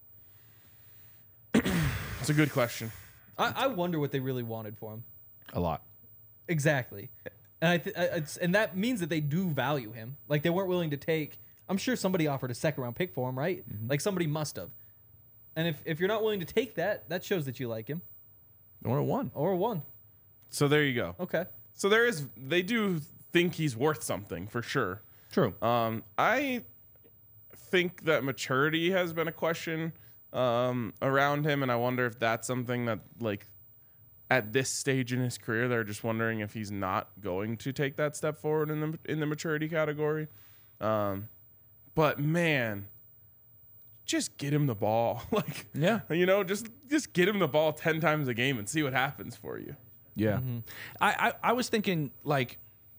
It's a good question. I, I wonder what they really wanted for him. A lot. Exactly. And I th- I- it's, and that means that they do value him. Like they weren't willing to take. I'm sure somebody offered a second round pick for him, right? Like somebody must have. And if, if you're not willing to take that, that shows that you like him Or a one. or a one. So there you go. Okay. So there is. They do think he's worth something for sure. True. Um, I think that maturity has been a question um, around him, and I wonder if that's something that, like, at this stage in his career, they're just wondering if he's not going to take that step forward in the in the maturity category. Um, but man, just get him the ball, like, Yeah. you know, just just get him the ball ten times a game and see what happens for you. Yeah. I, I, I was thinking, like,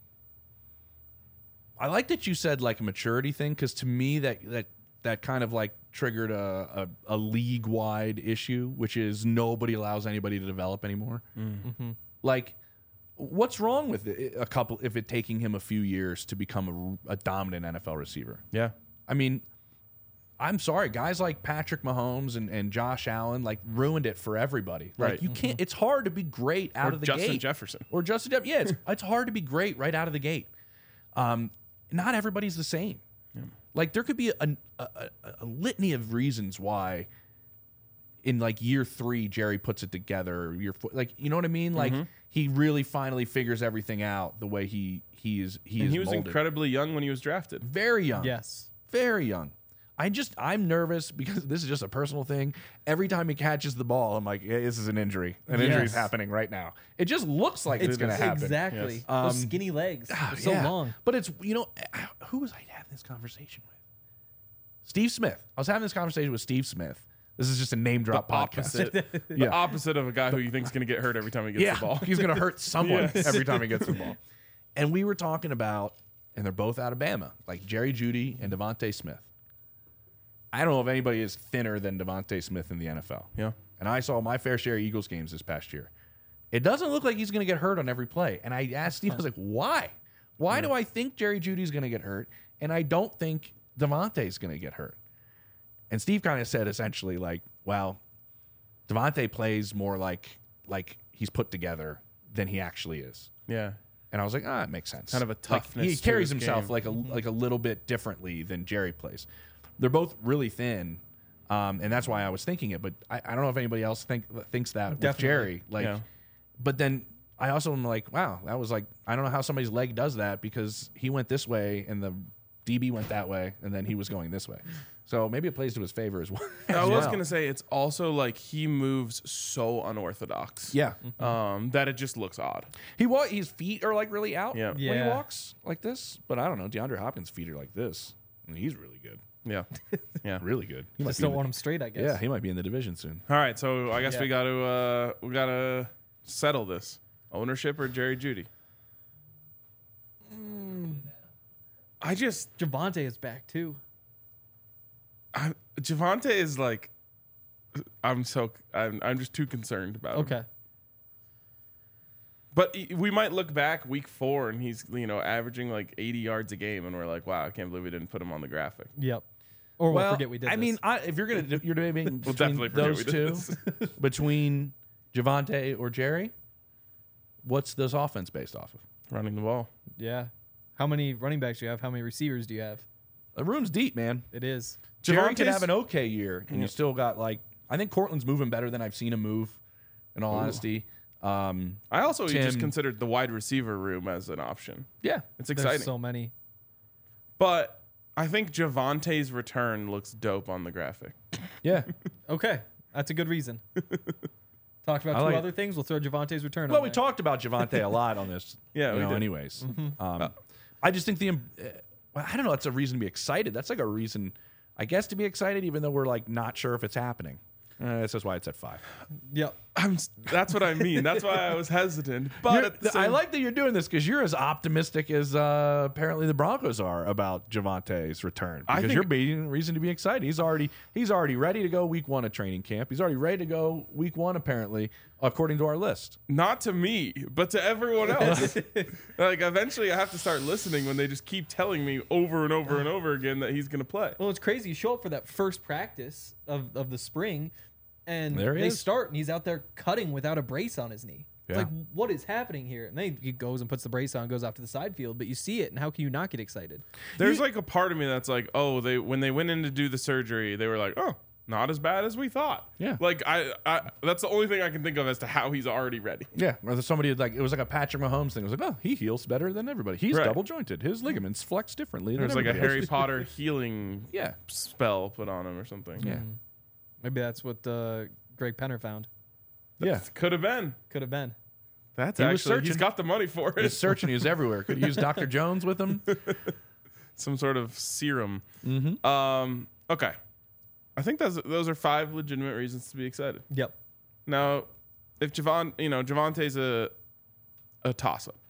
I like that you said, like, a maturity thing, because to me, that, that, that kind of, like, triggered a, a, a league-wide issue, which is nobody allows anybody to develop anymore. Like, what's wrong with it, a couple, if it taking him a few years to become a, a dominant N F L receiver? Yeah. I mean, I'm sorry, guys like Patrick Mahomes and, and Josh Allen like ruined it for everybody. Like Right. you can't. It's hard to be great out Or of the Justin gate. Jefferson. Or Justin Jefferson. Yeah, it's it's hard to be great right out of the gate. Um, not everybody's the same. Like there could be a, a, a, a litany of reasons why. In like year three, Jerry puts it together. Or year four, like you know what I mean. Like he really finally figures everything out the way he he is he And is he was molded. incredibly young when he was drafted. Very young. Yes. Very young. I just I'm nervous because this is just a personal thing. Every time he catches the ball, I'm like, hey, this is an injury. An Yes. injury is happening right now. It just looks like it's, going to happen. Exactly. Yes. Those Um, skinny legs. Ah, They're so yeah. long. But it's you know who was I having this conversation with? Steve Smith. I was having this conversation with Steve Smith. This is just a name drop The podcast. opposite, the Yeah. opposite of a guy who you think is going to get hurt every time he gets Yeah, the ball. he's going to hurt someone Yes. every time he gets the ball. And we were talking about, and they're both out of Bama, like Jerry Judy and Devontae Smith. I don't know if anybody is thinner than Devontae Smith in the N F L. Yeah. And I saw my fair share of Eagles games this past year. It doesn't look like he's going to get hurt on every play. And I asked Steve, I was like, why? Why do I think Jerry Judy's going to get hurt? And I don't think Devontae's going to get hurt. And Steve kind of said essentially like, well, Devontae plays more like like he's put together than he actually is. Yeah. And I was like, ah, it makes sense. Kind of a Like, toughness he to carries his himself game. like a like a little bit differently than Jerry plays. They're both really thin, um, and that's why I was thinking it. But I, I don't know if anybody else think thinks that with Definitely. Jerry. Like, Yeah. but then I also am like, wow, that was like I don't know how somebody's leg does that because he went this way and the D B went that way and then he was going this way. So maybe it plays to his favor as well. I was well. gonna say it's also like he moves so unorthodox. Yeah, Um, that it just looks odd. he wa- his feet are like really out Yeah. when he Yeah. walks like this. But I don't know, DeAndre Hopkins' feet are like this. I mean, he's really good, Yeah. Yeah. really good. He might Just be in don't the- want him straight, I guess. Yeah, he might be in the division soon. All right. So I guess Yeah. we got to uh, we got to settle this: ownership or Jerry Jeudy. I just Javonte is back too. I, Javonte is like, I'm so I'm I'm just too concerned about him. Okay. But he- we might look back week four and he's you know averaging like eighty yards a game, and we're like, wow, I can't believe we didn't put him on the graphic. Yep. Or we'll forget we did I this. mean, I, if you're gonna you're debating between definitely forget those we did two, this. between Javonte or Jerry, what's this offense based off of? Running the ball. yeah. How many running backs do you have? How many receivers do you have? The room's deep, man. It is. Jerry could Javonte's- have an okay year, and you still got like I think Cortland's moving better than I've seen him move. In all honesty, um, I also Tim- just considered the wide receiver room as an option. yeah, It's There's exciting. so many. But I think Javonte's return looks dope on the graphic. yeah. Okay. That's a good reason. Talked about I two like- other things. We'll throw Javonte's return Well, on we there. talked about Javonte a lot on this. Yeah, you we know, did. anyways. Um, I just think the, um, uh, well, I don't know. That's a reason to be excited. That's like a reason, I guess, to be excited, even though we're like not sure if it's happening. Uh, that's just why it's at five. Yep. I'm, s- that's what I mean. That's why I was hesitant. But You're- at the I same- like that you're doing this because you're as optimistic as uh, apparently the Broncos are about Javonte's return. I Because think- you're being reason to be excited. He's already he's already ready to go week one of training camp. He's already ready to go week one apparently, according to our list. not to me, but to everyone else. Like eventually, I have to start listening when they just keep telling me over and over and over again that he's going to play. Well, it's crazy. You show up for that first practice of, of the spring, and There he they is. start, and he's out there cutting without a brace on his knee. It's Yeah. like, what is happening here? And then he goes and puts the brace on, goes off to the side field, but you see it, and how can you not get excited? There's like a part of me that's like, oh, they when they went in to do the surgery, they were like, oh, not as bad as we thought. Yeah. Like I, I that's the only thing I can think of as to how he's already ready. Yeah, or there's somebody like it was like a Patrick Mahomes thing. It was like, oh, he heals better than everybody. He's Right. double jointed. His ligaments flex differently. There's than like a everybody Harry else. Potter healing Yeah, spell put on him or something. yeah, Maybe that's what uh, Greg Penner found. yeah. Could have been. Could have been. That's He was actually he's searching. got the money for He's it. searching. He was everywhere. Could he use Doctor Jones with him? Some sort of serum. Mm-hmm. Um. Okay. I think those those are five legitimate reasons to be excited. Yep. Now, if Javon, you know, Javonte's a a toss up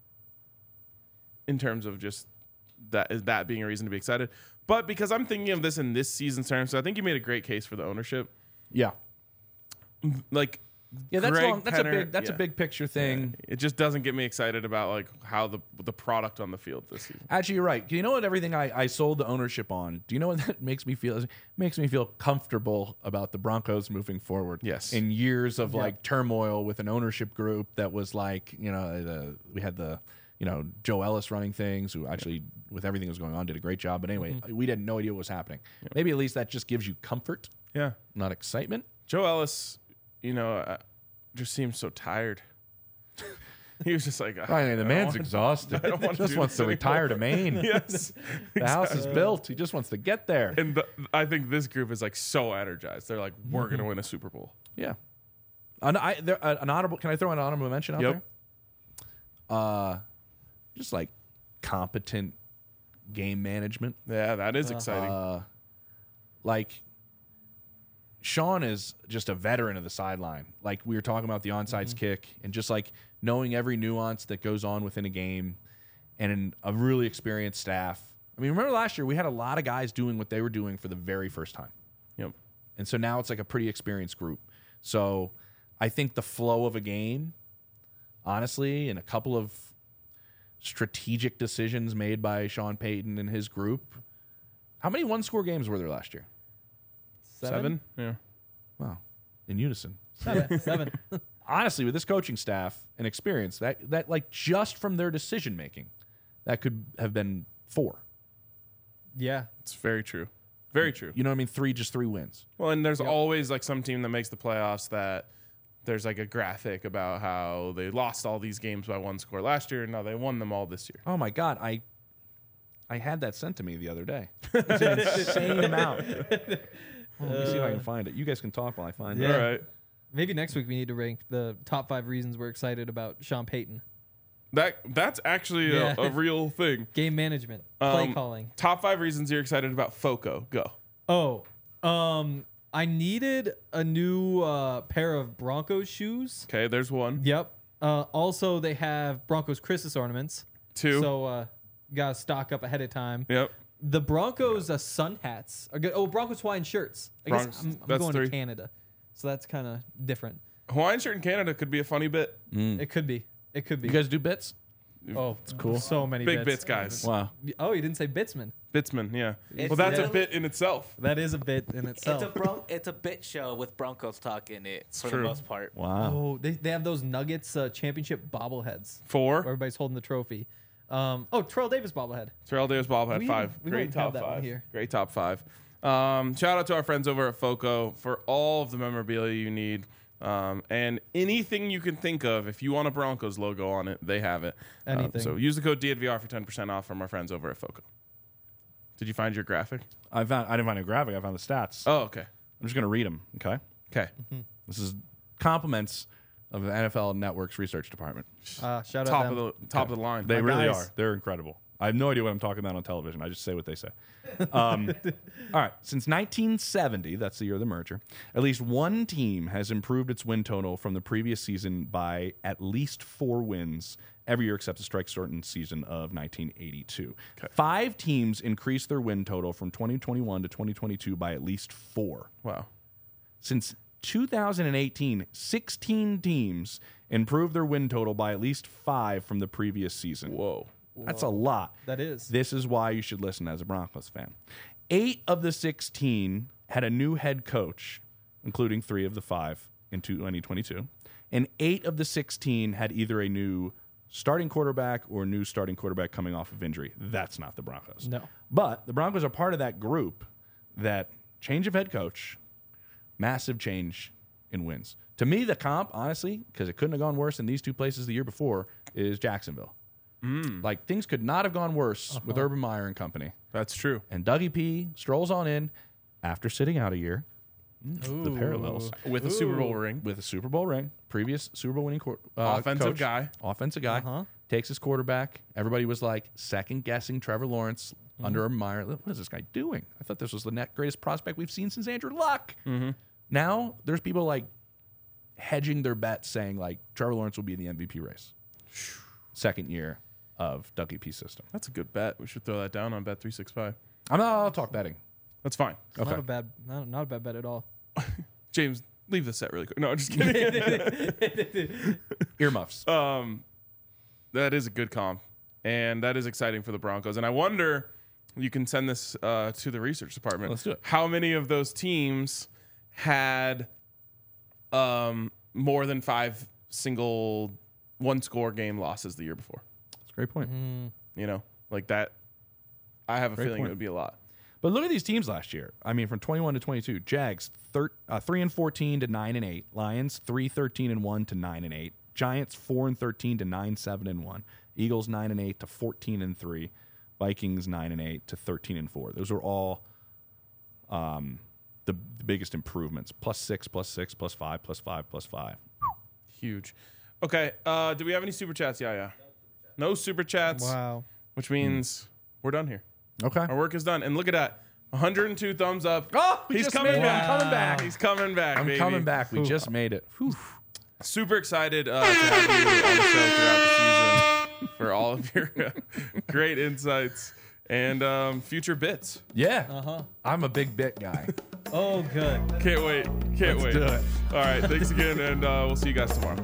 in terms of just that is that being a reason to be excited. But because I'm thinking of this in this season's terms, so I think you made a great case for the ownership. Yeah, Like, yeah. That's Greg long. That's a Penner- big. That's yeah. a big picture thing. It just doesn't get me excited about like how the the product on the field this season. Actually, you're right. You know what? Everything I, I sold the ownership on. Do you know what that makes me feel? It makes me feel comfortable about the Broncos moving forward. Yes. In years of like turmoil with an ownership group that was like, you know, the, we had the, you know, Joe Ellis running things, who actually, with everything that was going on, did a great job. But anyway, we had no idea what was happening. Maybe at least that just gives you comfort, Yeah. not excitement. Joe Ellis, you know, uh, just seems so tired. He was just like, I mean, the I man's don't exhausted. I don't he want to just do wants this to anymore. retire to Maine. Yes. The house is built. He just wants to get there. And the, I think this group is like so energized. They're like, we're going to win a Super Bowl. Yeah. An, I, there, uh, an honorable. Can I throw an honorable mention out Yep. there? Uh, just like competent game management. Yeah, that is exciting. Uh, like Sean is just a veteran of the sideline. Like we were talking about the onside kick and just like knowing every nuance that goes on within a game, and an, a really experienced staff. I mean, remember last year we had a lot of guys doing what they were doing for the very first time. Yep. And so now it's like a pretty experienced group. So I think the flow of a game, honestly, and a couple of strategic decisions made by Sean Payton and his group How many one-score games were there last year? Seven? Yeah. Wow. In unison. Seven. Seven. Honestly, with this coaching staff and experience, that, that like just from their decision-making, that could have been four. Yeah. It's very true. Very true. You know what I mean? Three, just three wins. Well, and there's always like some team that makes the playoffs that there's like a graphic about how they lost all these games by one score last year and now they won them all this year. Oh, my God. I I had that sent to me the other day. It's an insane amount. Well, let me see if I can find it. You guys can talk while I find Yeah. it. All right. Maybe next week we need to rank the top five reasons we're excited about Sean Payton. That that's actually Yeah. a, a real thing. Game management, play Um, calling. Top five reasons you're excited about Foco. Go. Oh, um, I needed a new uh, pair of Broncos shoes. Okay, there's one. Yep. Uh, also, they have Broncos Christmas ornaments. Two. So, uh, gotta stock up ahead of time. Yep. The Broncos uh, sun hats are good. Oh, Broncos Hawaiian shirts. I Broncos- guess I'm, I'm that's going three. to Canada, so that's kind of different. Hawaiian shirt in Canada could be a funny bit. It could be. It could be. You guys do bits? oh, it's cool. So many Big bits. bits, guys. Wow. Oh, you didn't say Bitsman. Bitsman, yeah. It's well, that's a literally- bit in itself. That is a bit in itself. It's a bro- it's a bit show with Broncos talk in it for True. the most part. Wow. Oh, they, they have those Nuggets uh, championship bobbleheads. Four. Where everybody's holding the trophy. Um, oh, Terrell Davis bobblehead. Terrell Davis bobblehead We- five. we Great don't have top that one five. here. Great top five. Um, shout out to our friends over at Foco for all of the memorabilia you need. Um, and anything you can think of, if you want a Broncos logo on it, they have it. Um, Anything. so use the code D N V R for ten percent off from our friends over at Foco. Did you find your graphic? I found. I didn't find a graphic. I found the stats. Oh, okay. I'm just going to read them, okay? Okay. This is compliments of the N F L Network's research department. Uh, shout Top out of them. the top of the line. They My really guys. are. They're incredible. I have no idea what I'm talking about on television. I just say what they say. Um, all right. Since nineteen seventy, that's the year of the merger, at least one team has improved its win total from the previous season by at least four wins every year except the strike-shortened season of nineteen eighty-two. Five teams increased their win total from twenty twenty-one to twenty twenty-two by at least four. Wow. Since two thousand eighteen, sixteen teams improved their win total by at least five from the previous season. Whoa. That's a lot. That is. This is why you should listen as a Broncos fan. Eight of the sixteen had a new head coach, including three of the five in twenty twenty-two. And eight of the sixteen had either a new starting quarterback or a new starting quarterback coming off of injury. That's not the Broncos. No. But the Broncos are part of that group that change of head coach, massive change in wins. To me, the comp, honestly, because it couldn't have gone worse in these two places the year before, is Jacksonville. Like, things could not have gone worse with Urban Meyer and company. That's true. And Dougie P strolls on in after sitting out a year. Mm, the parallels. With a Super Bowl ring. With a Super Bowl ring, previous Super Bowl winning court, uh, Offensive coach, guy. offensive guy, Uh-huh. takes his quarterback. Everybody was like second guessing Trevor Lawrence Mm-hmm. under Urban Meyer. What is this guy doing? I thought this was the net greatest prospect we've seen since Andrew Luck. Mm-hmm. Now there's people like hedging their bets, saying like Trevor Lawrence will be in the M V P race. Second year of Dougie P's system. That's a good bet. We should throw that down on Bet three sixty-five. I'm not. I'll talk betting. That's fine. Okay. Not a bad, not, not a bad bet at all. James, leave the set really quick. No, I'm just kidding. Earmuffs. um, that is a good comp, and that is exciting for the Broncos. And I wonder, you can send this uh, to the research department. Let's do it. How many of those teams had um, more than five single one-score game losses the year before? That's a great point. You know, like that. I have a Great feeling point. it would be a lot. But look at these teams last year. I mean, from twenty-one to twenty-two, Jags thir- uh, three and fourteen to nine and eight. Lions three thirteen and one to nine and eight. Giants four and thirteen to nine seven and one. Eagles nine and eight to fourteen and three. Vikings nine and eight to thirteen and four. Those are all um, the, the biggest improvements. Plus six, plus six, plus five, plus five, plus five. Huge. Okay. Uh, do we have any super chats? Yeah, yeah. No super chats. Wow. Which means we're done here. Okay. Our work is done. And look at that. one hundred two thumbs up. Oh, we he's just coming made it. back. I'm coming back. He's coming back. I'm baby. coming back. We just made it. Whew. Super excited uh, to have you on the show throughout the season for all of your uh, great insights and um, future bits. Yeah. Uh-huh. I'm a big bit guy. Oh, good. Can't wait. Can't Let's wait. do it. All right. Thanks again, and uh, we'll see you guys tomorrow.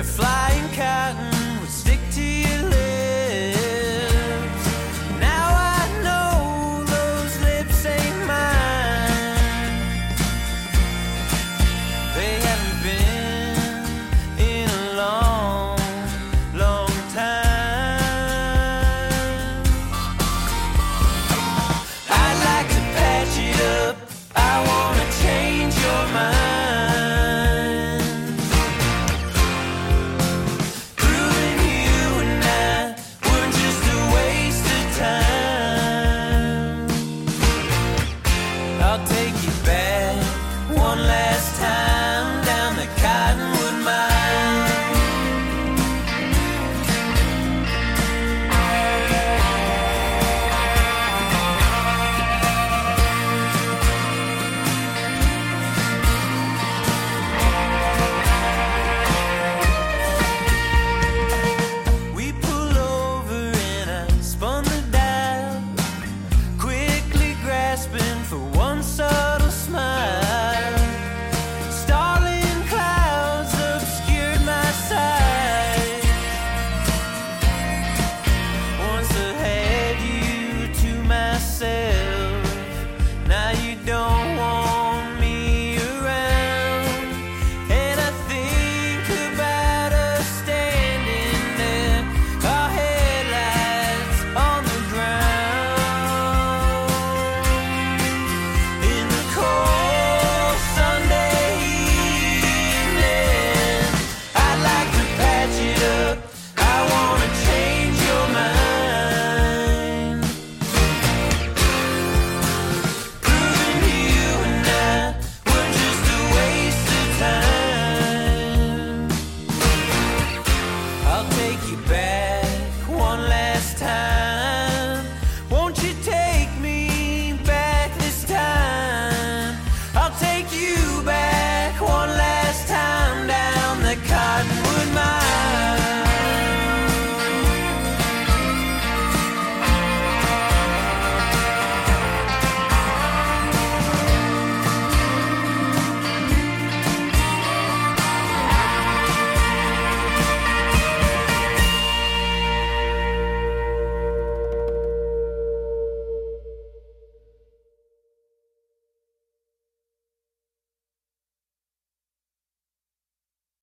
flying cotton.